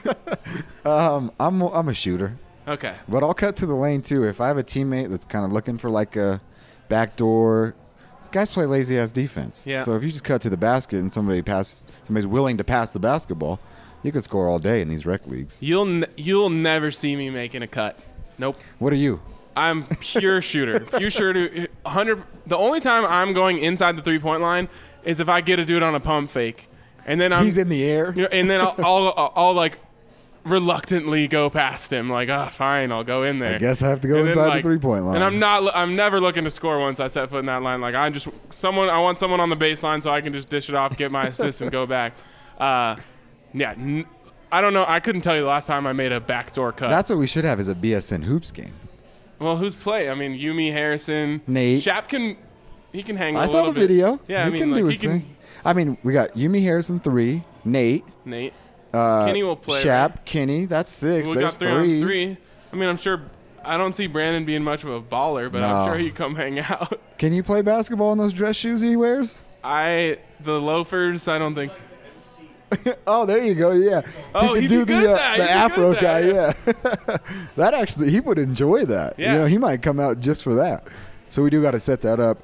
I'm a shooter. Okay. But I'll cut to the lane, too. If I have a teammate that's kind of looking for like a backdoor, guys play lazy ass defense. Yeah. So if you just cut to the basket and somebody's willing to pass the basketball, you could score all day in these rec leagues. You'll never see me making a cut. Nope. What are you? I'm pure shooter. Pure shooter. 100. The only time I'm going inside the 3-point line is if I get to do it on a pump fake, and then he's in the air. And then I'll like reluctantly go past him. Like, fine, I'll go in there. I guess I have to go inside the 3-point line. And I'm never looking to score once I set foot in that line. Like, I want someone on the baseline so I can just dish it off, get my assist, and go back. I don't know. I couldn't tell you the last time I made a backdoor cut. That's what we should have is a BSN hoops game. Well, who's play? I mean, Yumi, Harrison, Nate. Shap can hang a I little saw the bit. video. Yeah, he can do his thing. I mean, we got Yumi, Harrison 3, Nate. Kenny will play. Shap, right? Kenny, that's 6. We There's got 3 on 3s. 3. I mean, I'm sure. I don't see Brandon being much of a baller, but I'm sure he'd come hang out. Can you play basketball in those dress shoes he wears? The loafers, I don't think so. Oh, there you go. Yeah. Oh, he he'd can do be good at that. the afro guy. Yeah. That actually, he would enjoy that. Yeah. You know, he might come out just for that. So we do got to set that up.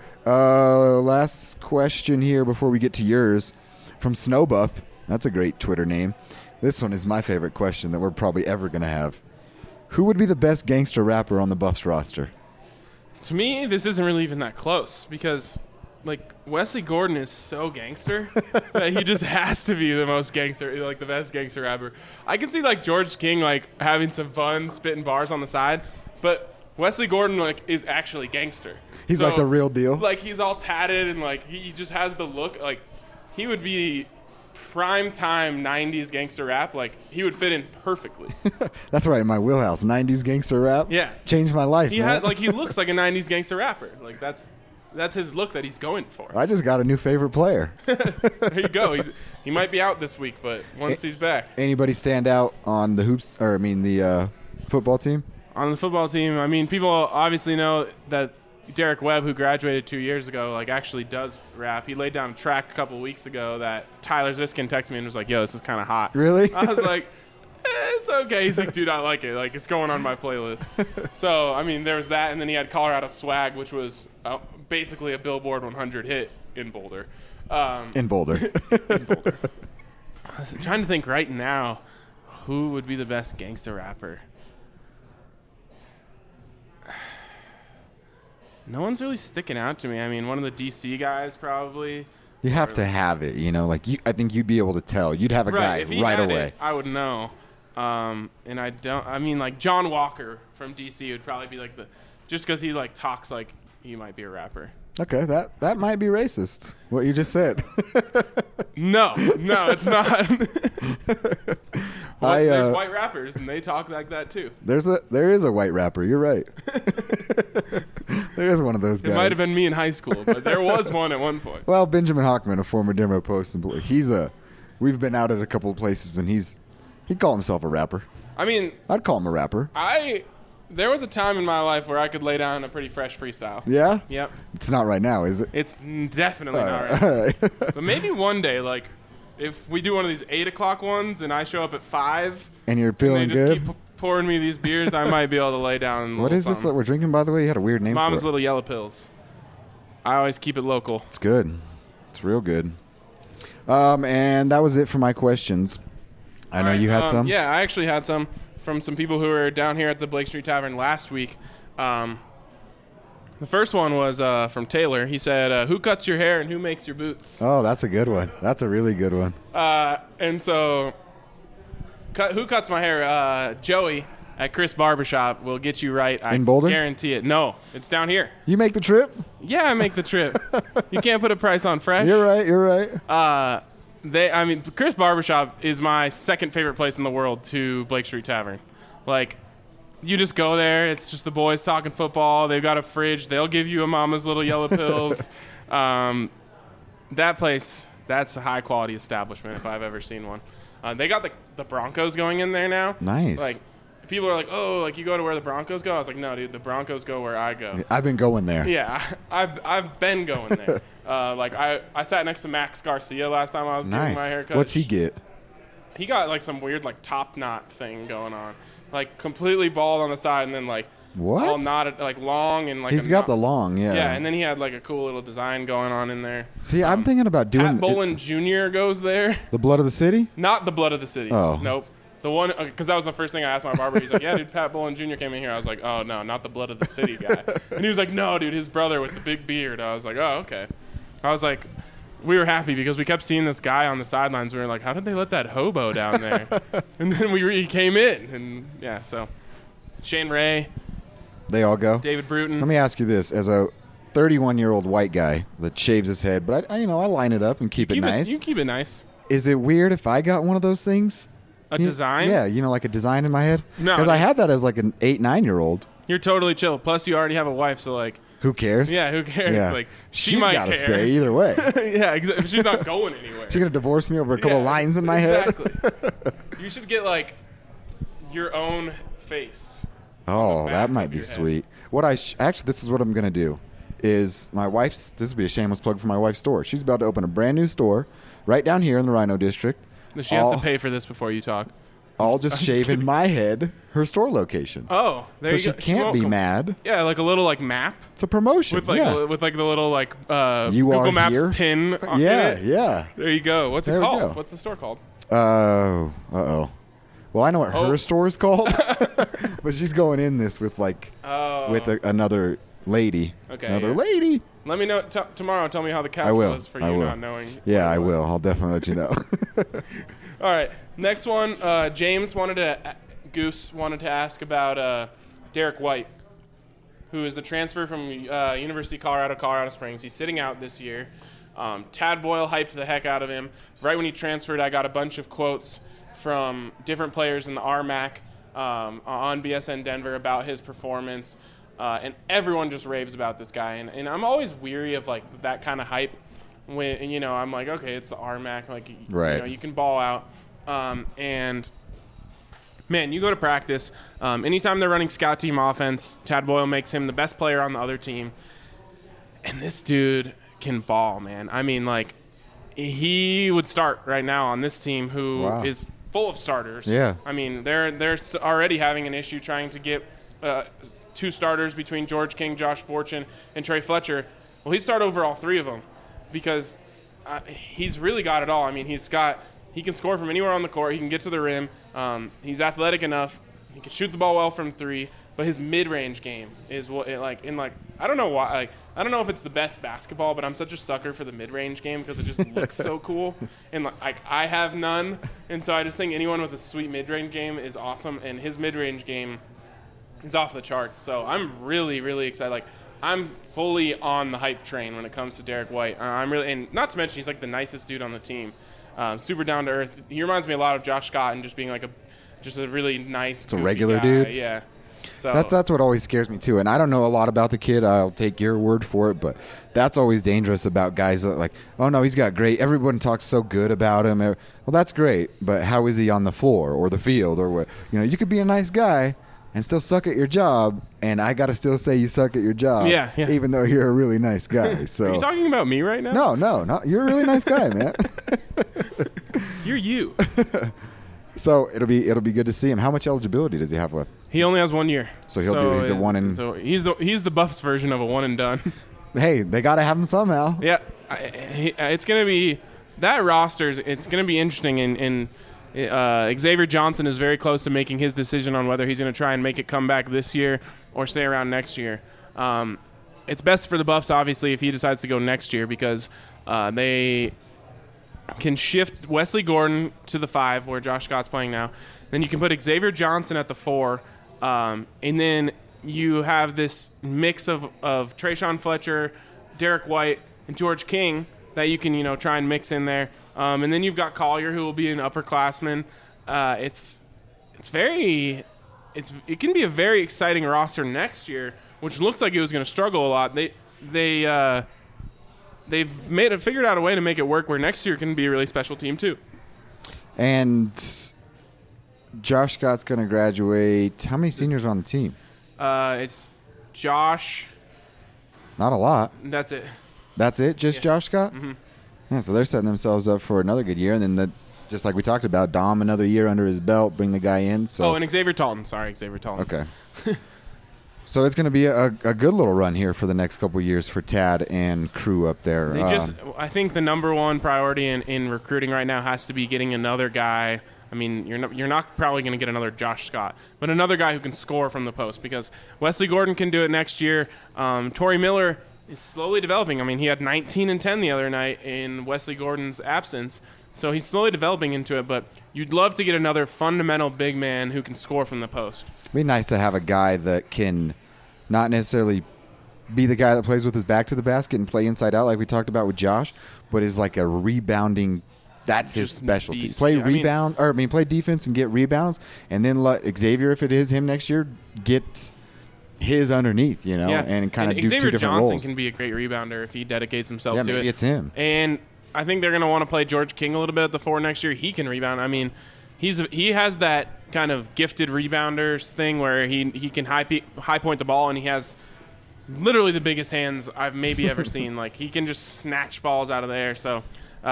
Last question here before we get to yours from Snowbuff. That's a great Twitter name. This one is my favorite question that we're probably ever going to have. Who would be the best gangster rapper on the Buffs roster? To me, this isn't really even that close because, like, Wesley Gordon is so gangster that he just has to be the most gangster, like the best gangster rapper. I can see like George King like having some fun, spitting bars on the side, but Wesley Gordon like is actually gangster. He's like the real deal. Like he's all tatted and like he just has the look. Like he would be prime time 90s gangster rap. Like he would fit in perfectly. That's right in my wheelhouse. 90s gangster rap. Yeah, changed my life. He man. had like he looks like a 90s gangster rapper. Like that's his look that he's going for. I just got a new favorite player. There you go. He might be out this week, but once he's back. Anybody stand out on the hoops, or I mean the football team? On the football team, I mean, people obviously know that Derek Webb, who graduated 2 years ago, like actually does rap. He laid down a track a couple weeks ago that Tyler Ziskin texted me and was like, "Yo, this is kind of hot." Really? I was like, it's okay. He's like, dude, I like it. Like, it's going on my playlist. So, I mean, there was that, and then he had Colorado Swag, which was basically a Billboard 100 hit in Boulder. In Boulder. In Boulder. I'm trying to think right now who would be the best gangster rapper. No one's really sticking out to me. I mean, one of the DC guys probably. You have to have it, you know. Like I think you'd be able to tell. You'd have a guy if he right had away. It, I would know. And I don't. I mean, like John Walker from DC would probably be like just because he like talks like he might be a rapper. Okay, that might be racist. What you just said. No, it's not. There's white rappers and they talk like that too. There is a white rapper. You're right. There is one of those guys. It might have been me in high school, but there was one at one point. Well, Benjamin Hockman, a former Denver Post employee, we've been out at a couple of places, and he'd call himself a rapper. I mean, I'd call him a rapper. There was a time in my life where I could lay down a pretty fresh freestyle. Yeah? Yep. It's not right now, is it? It's definitely not right now. All right. But maybe one day, like, if we do one of these 8 o'clock ones and I show up at 5 and you're feeling and they just good, keep pouring me these beers, I might be able to lay down. What is this that we're drinking, by the way? You had a weird name Mama's for it. Little Yellow Pills. I always keep it local. It's good. It's real good. And that was it for my questions. I know you had some. Yeah, I actually had some from some people who were down here at the Blake Street Tavern last week. The first one was from Taylor. He said, who cuts your hair and who makes your boots? Oh, that's a good one. That's a really good one. And so, who cuts my hair? Joey at Chris Barbershop will get you right. In Boulder? I guarantee it. No, it's down here. You make the trip? Yeah, I make the trip. You can't put a price on fresh. You're right. Chris Barbershop is my second favorite place in the world to Blake Street Tavern. Like, you just go there. It's just the boys talking football. They've got a fridge. They'll give you a Mama's Little Yellow Pills. That place, that's a high-quality establishment if I've ever seen one. They got the Broncos going in there now. Nice. Like, people are like, oh, like you go to where the Broncos go? I was like, no, dude, the Broncos go where I go. I've been going there. Yeah, I've been going there. Like I sat next to Max Garcia last time I was getting my haircut. What's he get? He got like some weird like top knot thing going on, like completely bald on the side, and then like What? All knotted, like long and like. He's got the long, yeah. Yeah, and then he had like a cool little design going on in there. See, I'm thinking about doing. Pat Bolin Jr. goes there. The Blood of the City? Not the Blood of the City. Oh. Nope. The one, because that was the first thing I asked my barber. He's like, yeah, dude, Pat Bolin Jr. came in here. I was like, oh, no, not the Blood of the City guy. And he was like, no, dude, his brother with the big beard. I was like, oh, okay. I was like, we were happy because we kept seeing this guy on the sidelines. We were like, how did they let that hobo down there? And then he came in. And, yeah, so Shane Ray. They all go? David Bruton. Let me ask you this. As a 31-year-old white guy that shaves his head, but I line it up and keep it nice. You keep it nice. Is it weird if I got one of those things? A design? Yeah, like a design in my head? No. Because I had that as like an 8, 9-year-old. You're totally chill. Plus, you already have a wife, so like. Who cares? Yeah, who cares? Yeah. Like she's might got to care. stay either way. Yeah, exactly. She's not going anywhere. She's gonna divorce me over a couple lines in my head. Exactly. You should get like your own face. Oh, that might be sweet. What actually, this is what I'm gonna do. Is my wife's? This would be a shameless plug for my wife's store. She's about to open a brand new store right down here in the Rhino District. She has to pay for this before you talk. I'll just shave in my head her store location. Oh, there so you go. she can't be mad. Yeah, like a little like map. It's a promotion. With like with like the little like you Google are Maps here? pin. Yeah, in it. yeah. There you go. What's it called? What's the store called? Uh-oh. Well, I know what her store is called, but she's going in this with like with another lady. Okay. Another lady. Let me know tomorrow. Tell me how the couch was for you not knowing. Yeah, I will. I'll definitely let you know. All right. Next one. Goose wanted to ask about Derek White, who is the transfer from University of Colorado Springs. He's sitting out this year. Tad Boyle hyped the heck out of him. Right when he transferred, I got a bunch of quotes from different players in the RMAC on BSN Denver about his performance. And everyone just raves about this guy. And I'm always weary of like that kind of hype when, I'm like, okay, it's the RMAC. Like, right. You can ball out. And man, you go to practice. Anytime they're running scout team offense, Tad Boyle makes him the best player on the other team. And this dude can ball, man. I mean, like, he would start right now on this team who is full of starters. Yeah. I mean, they're already having an issue trying to get 2 starters between George King, Josh Fortune, and Trey Fletcher. Well, he started over all 3 of them because he's really got it all. I mean, he can score from anywhere on the court. He can get to the rim. He's athletic enough. He can shoot the ball well from 3. But his mid-range game is what I don't know why. I don't know if it's the best basketball, but I'm such a sucker for the mid-range game because it just looks so cool. And I have none, and so I just think anyone with a sweet mid-range game is awesome. And his mid-range game is off the charts. So I'm really, really excited. I'm fully on the hype train when it comes to Derek White. And not to mention he's like the nicest dude on the team. Super down to earth. He reminds me a lot of Josh Scott and just being like just a really nice. It's a regular guy. dude. Yeah. So that's what always scares me too. And I don't know a lot about the kid. I'll take your word for it, but that's always dangerous about guys that like, oh no, he's got great. Everyone talks so good about him. Well, that's great, but how is he on the floor or the field or what? You could be a nice guy and still suck at your job, and I got to still say you suck at your job, even though you're a really nice guy. So are you talking about me right now? No, you're a really nice guy, man. You're you. So it'll be good to see him. How much eligibility does he have left? He only has 1 year. So he's a one and. So he's the Buffs version of a one and done. Hey, they got to have him somehow. Yeah, it's gonna be that roster's. It's gonna be interesting. And Xavier Johnson is very close to making his decision on whether he's gonna try and make it come back this year or stay around next year. It's best for the Buffs, obviously, if he decides to go next year because they can shift Wesley Gordon to the 5 where Josh Scott's playing now. Then you can put Xavier Johnson at the 4. And then you have this mix of Trayshawn Fletcher, Derek White, and George King that you can, try and mix in there. And then you've got Collier, who will be an upperclassman. It can be a very exciting roster next year, which looks like it was going to struggle a lot. They've figured out a way to make it work where next year can be a really special team too. And Josh Scott's going to graduate. How many seniors are on the team? It's Josh. Not a lot. That's it. That's it? Just Josh Scott? Mm-hmm. Yeah, so they're setting themselves up for another good year. And then, just like we talked about, Dom, another year under his belt, bring the guy in. So. Oh, and Xavier Talton. Sorry, Xavier Talton. Okay. So it's going to be a good little run here for the next couple of years for Tad and crew up there. I think the number one priority in recruiting right now has to be getting another guy. I mean, you're not probably going to get another Josh Scott, but another guy who can score from the post, because Wesley Gordon can do it next year. Torrey Miller is slowly developing. I mean, he had 19 and 10 the other night in Wesley Gordon's absence, so he's slowly developing into it, but you'd love to get another fundamental big man who can score from the post. It'd be nice to have a guy that can not necessarily be the guy that plays with his back to the basket and play inside out like we talked about with Josh, but is like a rebounding. That's his specialty. Beast. Play play defense and get rebounds, and then let Xavier, if it is him next year, get his underneath, and kind of do Xavier 2 different Johnson roles. Can be a great rebounder if he dedicates himself to maybe it. It's him. And I think they're going to want to play George King a little bit at the 4 next year. He can rebound. I mean, he has that kind of gifted rebounders thing where he can high point the ball, and he has literally the biggest hands I've maybe ever seen. Like, he can just snatch balls out of the air. So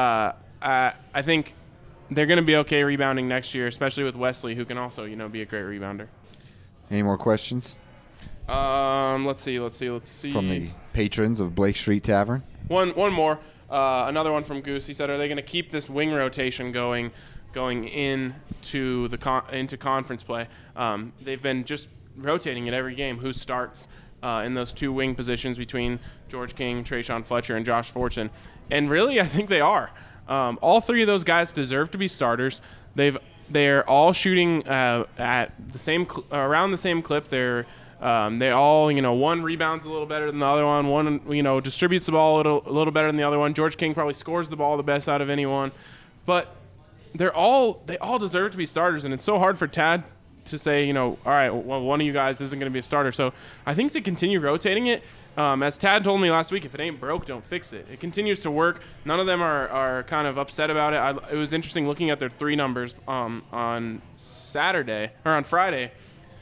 I think they're going to be okay rebounding next year, especially with Wesley, who can also, be a great rebounder. Any more questions? Let's see. From the patrons of Blake Street Tavern. One more. Another one from Goose. He said, "Are they going to keep this wing rotation going into into conference play? They've been just rotating it every game. Who starts in those 2 wing positions between George King, Trayshawn Fletcher, and Josh Fortune? And really, I think they are. All 3 of those guys deserve to be starters. They're all shooting at the same around the same clip. They all, one rebounds a little better than the other one. One, distributes the ball a little better than the other one. George King probably scores the ball the best out of anyone. But they all deserve to be starters, and it's so hard for Tad to say, all right, well, one of you guys isn't going to be a starter. So I think to continue rotating it, as Tad told me last week, if it ain't broke, don't fix it. It continues to work. None of them are kind of upset about it. It was interesting looking at their 3 numbers on Saturday or on Friday.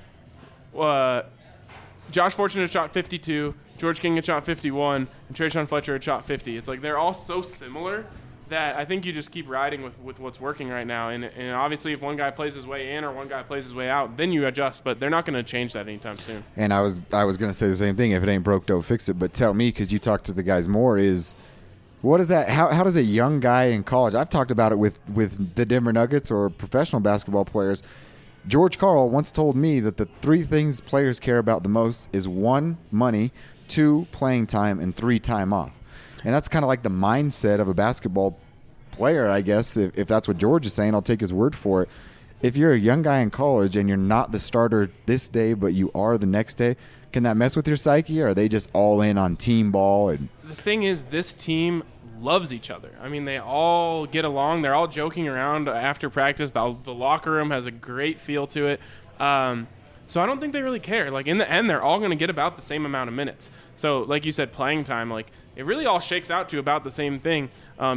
Josh Fortune had shot 52, George King had shot 51, and Trayshawn Fletcher had shot 50. It's like they're all so similar that I think you just keep riding with what's working right now. And obviously if one guy plays his way in or one guy plays his way out, then you adjust. But they're not going to change that anytime soon. And I was going to say the same thing. If it ain't broke, don't fix it. But tell me, because you talk to the guys more, is what is that? How does a young guy in college – I've talked about it with the Denver Nuggets or professional basketball players. George Karl once told me that the 3 things players care about the most is 1, money, 2, playing time, and 3, time off. And that's kind of like the mindset of a basketball player, I guess. If that's what George is saying, I'll take his word for it. If you're a young guy in college and you're not the starter this day, but you are the next day, can that mess with your psyche, or are they just all in on team ball? And the thing is, this team loves each other. I mean, they all get along. They're all joking around after practice. The locker room has a great feel to it. So I don't think they really care. Like, in the end, they're all going to get about the same amount of minutes. So, like you said, playing time, like, it really all shakes out to about the same thing.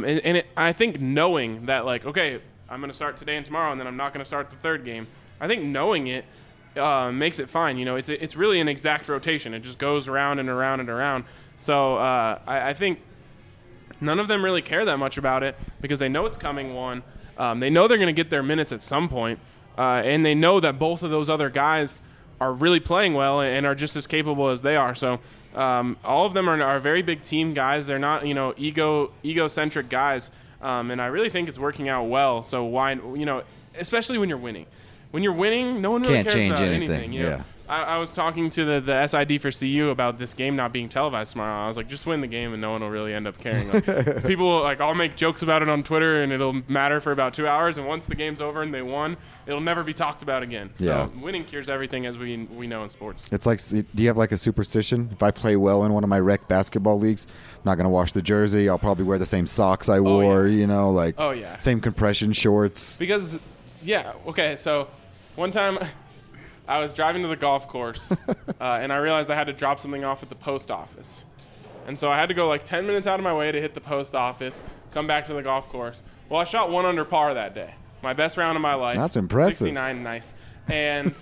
I think knowing that, like, okay, I'm going to start today and tomorrow, and then I'm not going to start the 3rd game, I think knowing it makes it fine. It's really an exact rotation. It just goes around and around and around. So I think none of them really care that much about it because they know it's coming, one. They know they're going to get their minutes at some point. And they know that both of those other guys are really playing well and are just as capable as they are. So all of them are very big team guys. They're not, egocentric guys. And I really think it's working out well. So why, especially when you're winning. When you're winning, no one really can't cares change about anything. Yeah. I was talking to the SID for CU about this game not being televised tomorrow. I was like, just win the game and no one will really end up caring. Like, people, like, I'll make jokes about it on Twitter and it'll matter for about 2 hours. And once the game's over and they won, it'll never be talked about again. Yeah. So winning cures everything, as we know in sports. It's like, do you have like a superstition? If I play well in one of my rec basketball leagues, I'm not going to wash the jersey. I'll probably wear the same socks I wore, same compression shorts. Because, okay, so one time I was driving to the golf course, and I realized I had to drop something off at the post office. And so I had to go like 10 minutes out of my way to hit the post office, come back to the golf course. Well, I shot 1 under par that day. My best round of my life. That's impressive. 69, nice. And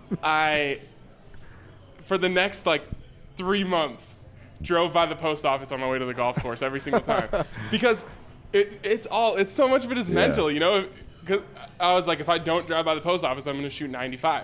I, for the next like 3 months, drove by the post office on my way to the golf course every single time. Because it's so much of it is mental, Because I was like, if I don't drive by the post office, I'm going to shoot 95.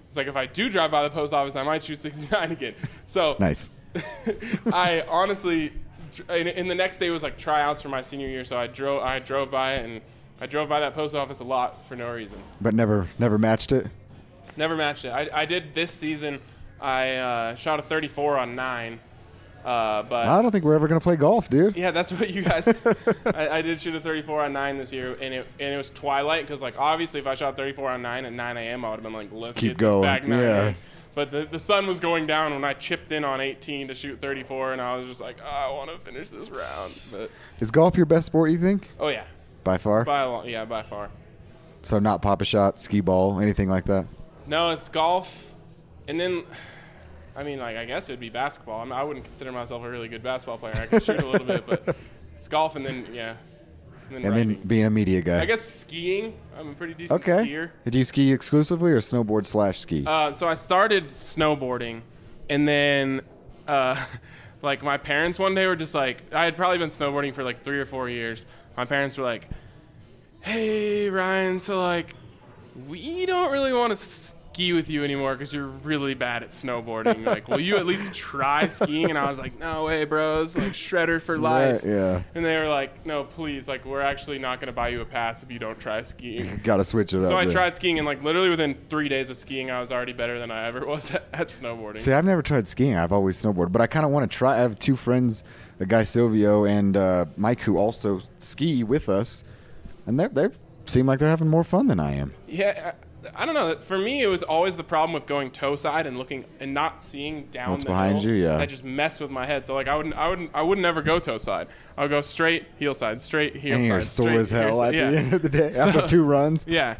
It's like if I do drive by the post office, I might shoot 69 again. So Nice. I honestly, in the next day was like tryouts for my senior year. So I drove by it, and I drove by that post office a lot for no reason. But never matched it? Never matched it. I did this season. I shot a 34 on 9. But I don't think we're ever going to play golf, dude. yeah, that's what you guys. I did shoot a 34 on 9 this year, and it was twilight because like obviously if I shot 34 on 9 at 9 a.m. I would have been like, let's Keep get going. back 9. Yeah. But the sun was going down when I chipped in on 18 to shoot 34, and I was just like, I want to finish this round. But Is golf your best sport, you think? oh yeah, By far? by a long, yeah, by far. So not pop a shot, skee ball, anything like that? No, it's golf, and then. I mean, like, I guess it would be basketball. I mean, I wouldn't consider myself a really good basketball player. I could shoot a little bit, but it's golf, and then, yeah. And Then being a media guy. I guess skiing. I'm a pretty decent skier. Did you ski exclusively or snowboard / ski? So I started snowboarding, and then, like, my parents one day were just like, I had probably been snowboarding for like 3 or 4 years. My parents were like, hey, Ryan, so, like, we don't really want to ski with you anymore because you're really bad at snowboarding. Like, will you at least try skiing? And I was like, no way, bros. Like, shredder for life. Right, yeah. And they were like, no, please. Like, we're actually not going to buy you a pass if you don't try skiing. Got to switch it up. So I then. tried skiing, and like literally within 3 days of skiing, I was already better than I ever was at snowboarding. See, I've never tried skiing. I've always snowboarded, but I kind of want to try. I have 2 friends, a guy Silvio and Mike, who also ski with us, and they seem like they're having more fun than I am. Yeah, I don't know. For me, it was always the problem with going toe side and looking and not seeing down What's the behind hill. you, yeah. That just messed with my head. So like I would never go toe side. I would go straight heel side, straight heel And side. you're sore straight, as hell at yeah. the end of the day after 2 runs. Yeah.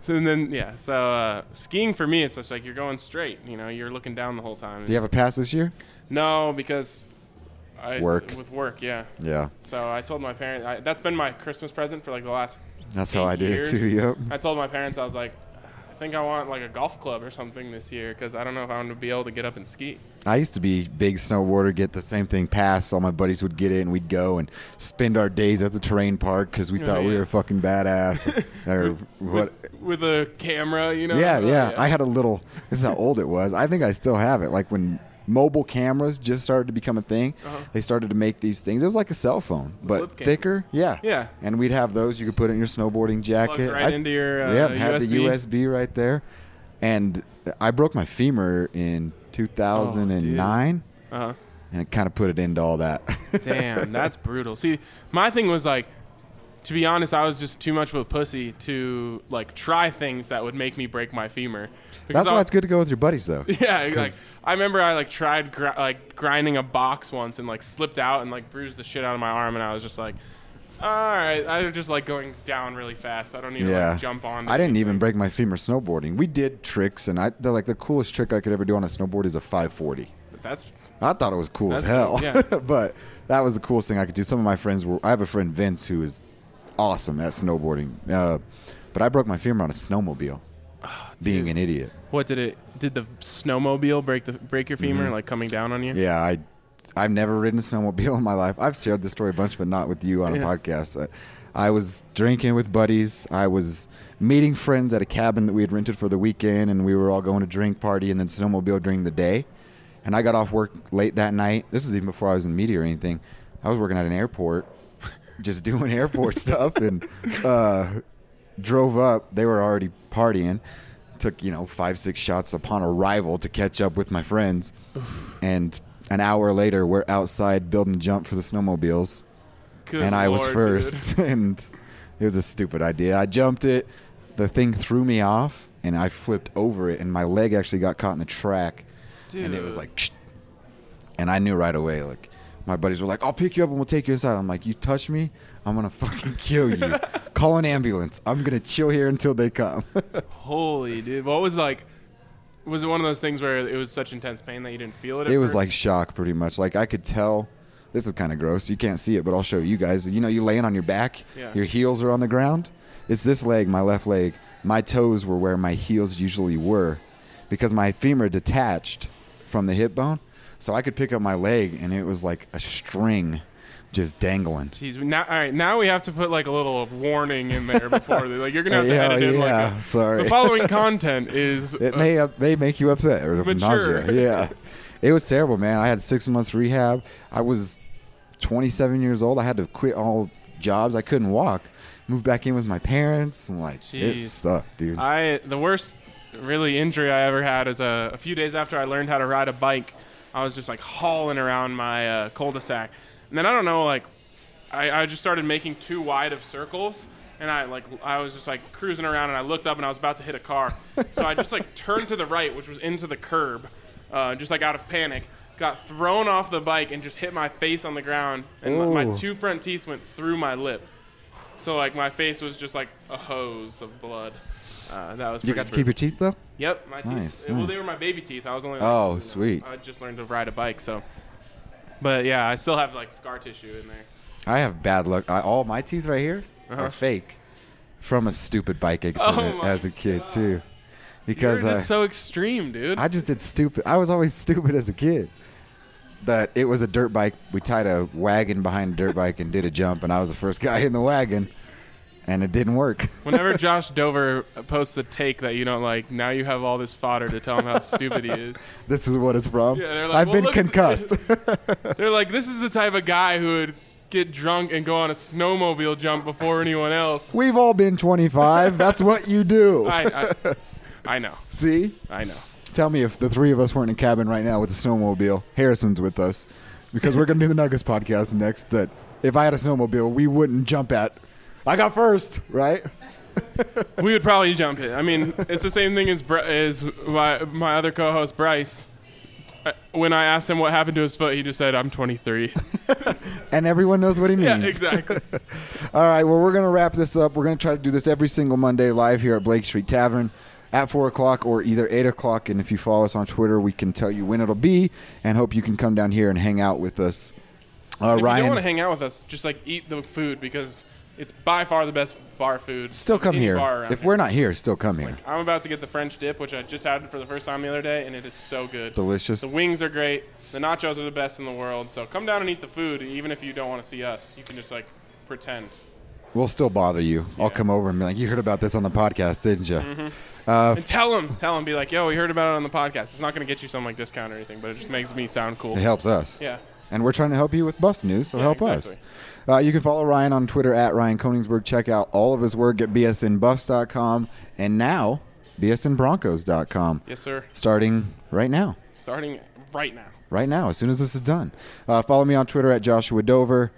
So skiing for me, it's just like you're going straight. You know, you're looking down the whole time. Do you have a pass this year? No, because Work. With work, yeah. Yeah. So I told my parents that's been my Christmas present for like the last. That's 8 how I did years. it too. Yep. I told my parents, I was like, I think I want like a golf club or something this year because I don't know if I'm going to be able to get up and ski. I used to be big snowboarder, get the same thing pass. All my buddies would get it, and we'd go and spend our days at the terrain park because we thought we were fucking badass. Or what? With a camera, you know? Yeah. I had a little. This is how old it was. I think I still have it. Like when mobile cameras just started to become a thing, they started to make these things. It was like a cell phone, but thicker. Yeah. Yeah. And we'd have those. You could put it in your snowboarding jacket. Plugs right into your had USB. the USB right there. And I broke my femur in 2009. And it kind of put it into all that. Damn, that's brutal. See, my thing was like, to be honest, I was just too much of a pussy to like try things that would make me break my femur. Because That's why it's good to go with your buddies, though. Yeah, like I remember I like tried grinding a box once and like slipped out and like bruised the shit out of my arm, and I was just like, all right, I was just like going down really fast. I don't need to like jump on. I didn't even break my femur snowboarding. We did tricks, and the coolest trick I could ever do on a snowboard is a 540. I thought it was cool as hell. Cool, yeah. But that was the coolest thing I could do. Some of my friends I have a friend Vince who is awesome at snowboarding. But I broke my femur on a snowmobile. Being an idiot. What did the snowmobile break your femur like coming down on you? Yeah, I've never ridden a snowmobile in my life. I've shared this story a bunch, but not with you on a podcast. I was drinking with buddies. I was meeting friends at a cabin that we had rented for the weekend, and we were all going to drink party and then snowmobile during the day. And I got off work late that night. This is even before I was in media or anything. I was working at an airport, just doing airport stuff, and drove up. They were already partying. Took 5-6 shots upon arrival to catch up with my friends. And an hour later, we're outside building a jump for the snowmobiles. Good I was Lord, first. dude. And it was a stupid idea. I jumped it. The thing threw me off, and I flipped over it, and my leg actually got caught in the track. Dude. And it was like, Shh. And I knew right away, like, my buddies were like, I'll pick you up and we'll take you inside. I'm like, you touch me, I'm going to fucking kill you. Call an ambulance. I'm going to chill here until they come. Holy dude. What was like, was it one of those things where it was such intense pain that you didn't feel it? It was like shock pretty much. Like I could tell, this is kind of gross. You can't see it, but I'll show you guys. You laying on your back, your heels are on the ground. It's this leg, my left leg. My toes were where my heels usually were because my femur detached from the hip bone. So I could pick up my leg, and it was like a string just dangling. Jeez, now, all right, now we have to put like a little warning in there before, like you're gonna have to edit in like, sorry. The following content is It may make you upset or mature. nausea. Yeah, it was terrible, man. I had 6 months rehab. I was 27 years old. I had to quit all jobs. I couldn't walk. Moved back in with my parents, and like Jeez. it sucked, dude. The worst really injury I ever had is a few days after I learned how to ride a bike. I was just like hauling around my cul-de-sac. And then I don't know, like, I just started making too wide of circles, and I was just like cruising around, and I looked up, and I was about to hit a car, so I just like turned to the right, which was into the curb, just like out of panic, got thrown off the bike, and just hit my face on the ground, and my 2 front teeth went through my lip, so like my face was just like a hose of blood. That was. You got to keep your teeth though? Yep, my teeth. Nice. Well, they were my baby teeth. I was only. Sweet. I just learned to ride a bike, so. But yeah, I still have like scar tissue in there. I have bad luck. All my teeth right here are fake from a stupid bike accident as a kid too. Because you're just so extreme, dude. I just did stupid. I was always stupid as a kid. That it was a dirt bike. We tied a wagon behind a dirt bike and did a jump, and I was the first guy in the wagon. And it didn't work. Whenever Josh Dover posts a take that you don't like, now you have all this fodder to tell him how stupid he is. This is what it's from? Yeah, they're like, I've been concussed. They're like, this is the type of guy who would get drunk and go on a snowmobile jump before anyone else. We've all been 25. That's what you do. I know. See? I know. Tell me if the 3 of us weren't in a cabin right now with a snowmobile. Harrison's with us. Because we're going to do the Nuggets podcast next. That if I had a snowmobile, we wouldn't jump at. I got first, right? We would probably jump it. I mean, it's the same thing as my other co-host, Bryce. When I asked him what happened to his foot, he just said, I'm 23. And everyone knows what he means. Yeah, exactly. All right, well, we're going to wrap this up. We're going to try to do this every single Monday live here at Blake Street Tavern at 4 o'clock or either 8 o'clock. And if you follow us on Twitter, we can tell you when it'll be and hope you can come down here and hang out with us. If you don't want to hang out with us, just like eat the food because it's by far the best bar food. Still come here. If we're not here, still come here. Like, I'm about to get the French dip, which I just had for the first time the other day, and it is so good. Delicious. The wings are great. The nachos are the best in the world. So come down and eat the food, even if you don't want to see us. You can just, like, pretend. We'll still bother you. Yeah. I'll come over and be like, you heard about this on the podcast, didn't you? Mm-hmm. And tell them, be like, yo, we heard about it on the podcast. It's not going to get you some, like, discount or anything, but it just makes me sound cool. It helps us. Yeah. And we're trying to help you with Buffs news, so help us. You can follow Ryan on Twitter at Ryan Koenigsberg. Check out all of his work at bsnbuffs.com and now bsnbroncos.com. Yes, sir. Starting right now. Starting right now. Right now, as soon as this is done. Follow me on Twitter at Joshua Dover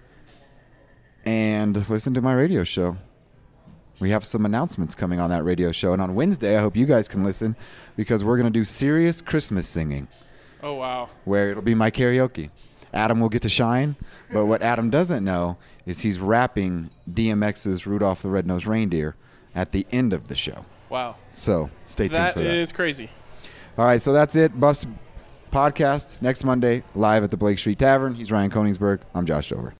and listen to my radio show. We have some announcements coming on that radio show. And on Wednesday, I hope you guys can listen because we're going to do serious Christmas singing. Oh, wow. Where it'll be my karaoke. Adam will get to shine, but what Adam doesn't know is he's rapping DMX's Rudolph the Red-Nosed Reindeer at the end of the show. Wow. So stay tuned for that. That is crazy. All right, so that's it. Buffs podcast next Monday, live at the Blake Street Tavern. He's Ryan Koenigsberg. I'm Josh Dover.